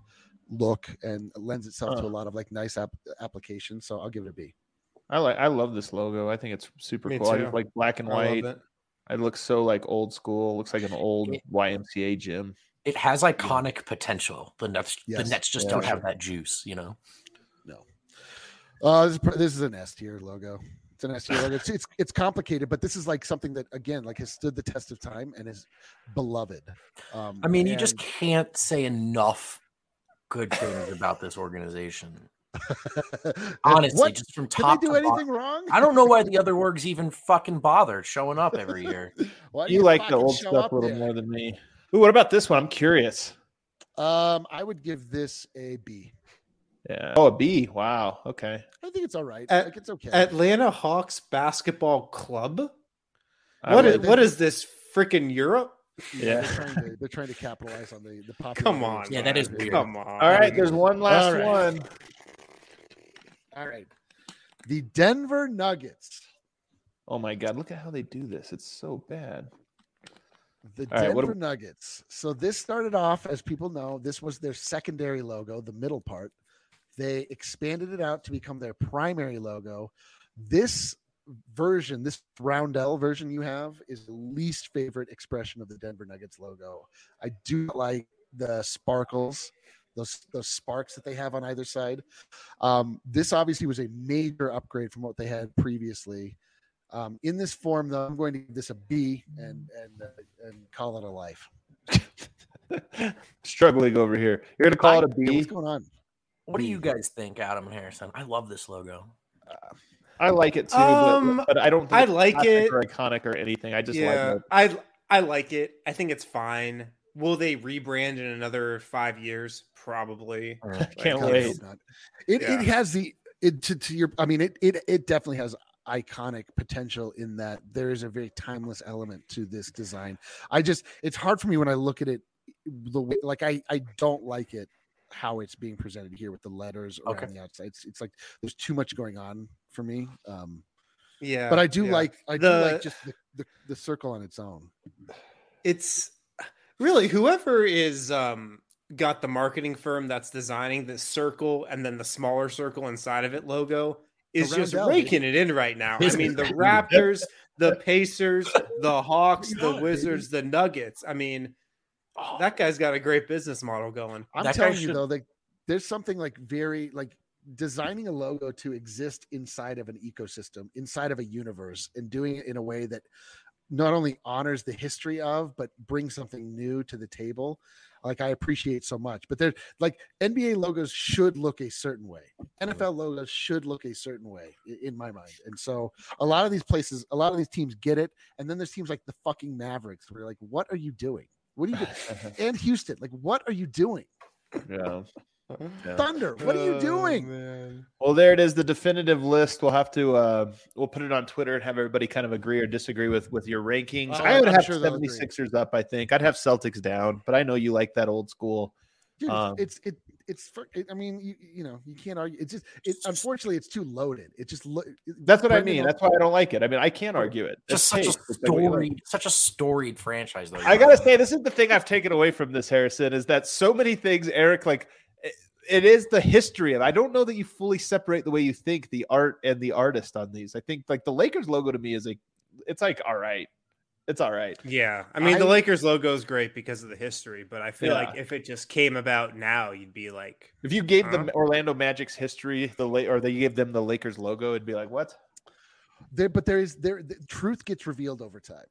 look and lends itself Huh. to a lot of like nice app- applications. So I'll give it a B. I like I love this logo. I think it's super Me cool. I too. just like black and I love white. it. It looks so like old school. Looks like an old It- Y M C A gym. It has iconic potential. The Nets, Yes. the Nets just Yeah, don't for have sure. that juice, you know. Uh, this, is, pr- this is an S tier logo. It's an S tier logo. It's, it's it's complicated, but this is like something that again like has stood the test of time and is beloved. Um, I mean, you just and- can't say enough good things about this organization. Honestly, what? just from Did they top do to anything bottom. wrong? I don't know why the other orgs even fucking bother showing up every year. Why do You like the fucking old show stuff up a little there? more than me. Ooh, what about this one? I'm curious. Um, I would give this a B. Yeah. Oh, a B. Wow. Okay. I think it's all right. At- like it's okay. Atlanta Hawks Basketball Club. I What like is what is this freaking Europe? Yeah. They're trying to they're trying to capitalize on the the popularity. Come of on, this Yeah, that is guy. weird. Come on. All right. There's one last All right. one. All right. The Denver Nuggets. Oh my God. Look at how they do this. It's so bad. The All right, what Denver do- Nuggets. So this started off, as people know, this was their secondary logo, the middle part. They expanded it out to become their primary logo. This version, this roundel version you have, is the least favorite expression of the Denver Nuggets logo. I do like the sparkles, those those sparks that they have on either side. Um, this obviously was a major upgrade from what they had previously. Um, in this form, though, I'm going to give this a B and and uh, and call it a life. Struggling over here. You're gonna call it a Hey, B. what's going on? What do you guys think, Adam and Harrison? I love this logo. I like it too, Um, but, but I don't. Think I it's like classic it. or iconic or anything. I just yeah, like it. I I like it. I think it's fine. Will they rebrand in another five years? Probably. Can't God, I wait. hope not. It Yeah. it has the it to, to your. I mean, it it it definitely has iconic potential in that there is a very timeless element to this design. I just it's hard for me when I look at it the way like I I don't like it how it's being presented here with the letters around Okay. the outside. It's, it's like there's too much going on for me. Um, Yeah, but I do yeah. like I The- do like just the, the the circle on its own. It's really whoever is um got the marketing firm that's designing this circle and then the smaller circle inside of it logo is The just roundel, raking it in right now. I Business. mean, the Raptors, the Pacers, the Hawks, Bring it the on, baby. Wizards, the Nuggets. I mean, that guy's got a great business model going. I'm That guy telling you should- though, like there's something like very like designing a logo to exist inside of an ecosystem, inside of a universe, and doing it in a way that not only honors the history of, but brings something new to the table. Like I appreciate so much. But they're like N B A logos should look a certain way. N F L logos should look a certain way i- in my mind. And so a lot of these places, a lot of these teams get it. And then there's teams like the fucking Mavericks where you're like, what are you doing? What are you doing? And Houston, like, what are you doing? Yeah. Yeah. Thunder, what are you Oh, doing? man. Well, there it is, the definitive list. We'll have to uh we'll put it on Twitter and have everybody kind of agree or disagree with with your rankings. Oh, I would I'm have sure they'll agree. 76ers up, I think. I'd have Celtics down, but I know you like that old school. Dude, Um, it's it it's for it, I mean, you, you know, you can't argue. It's just it unfortunately it's too loaded. It just lo- That's what I Brendan mean. will- That's why I don't like it. I mean, I can't argue it. Just It's such a taste. It's like what you like. storied, such a storied franchise, though. I gotta say, this is the thing I've taken away from this, Harrison, is that so many things, Eric, like it, it is the history of. I don't know that you fully separate the way you think the art and the artist on these. I think like the Lakers logo to me is like, it's like all right, it's all right. Yeah, I mean the I- Lakers logo is great because of the history, but I feel Yeah. like if it just came about now, you'd be like, If you gave Huh? the Orlando Magic's history, the late or they gave them the Lakers logo, it'd be like what? there, but there is there the truth gets revealed over time.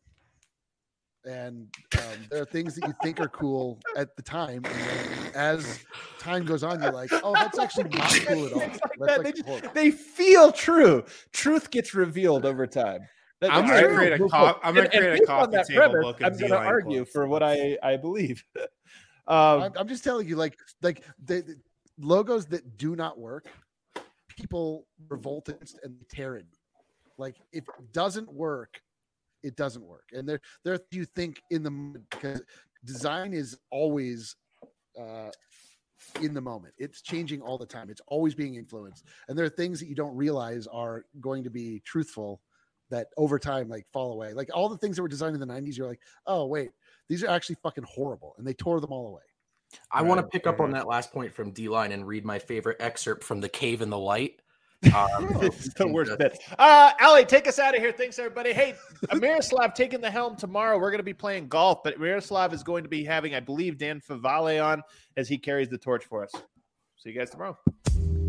And um, there are things that you think are cool at the time, and then as time goes on, you're like, "Oh, that's actually not cool at all." Things like That's that, like they, just- horrible. they feel true. Truth gets revealed over time. That- I'm that's gonna true. create a Look, co- look, I'm gonna and- and create a based on coffee that table premise, book of I'm going to D-line argue quotes. for what I I believe. um, I'm, I'm just telling you, like, like the, the logos that do not work, people revolt against and tear it. Like, if it doesn't work, it doesn't work. And there, there are you think in the moment, because design is always uh, in the moment. It's changing all the time. It's always being influenced, and there are things that you don't realize are going to be truthful that over time like fall away. Like all the things that were designed in the nineties, you're like, oh wait, these are actually fucking horrible, and they tore them all away. I want to pick up on that last point from D-Line and read my favorite excerpt from The Cave in the Light. Um, it's the worst bit. Uh, Ali, take us out of here. Thanks, everybody. Hey, Miroslav taking the helm tomorrow. We're going to be playing golf, but Miroslav is going to be having, I believe, Dan Favale on as he carries the torch for us. See you guys tomorrow.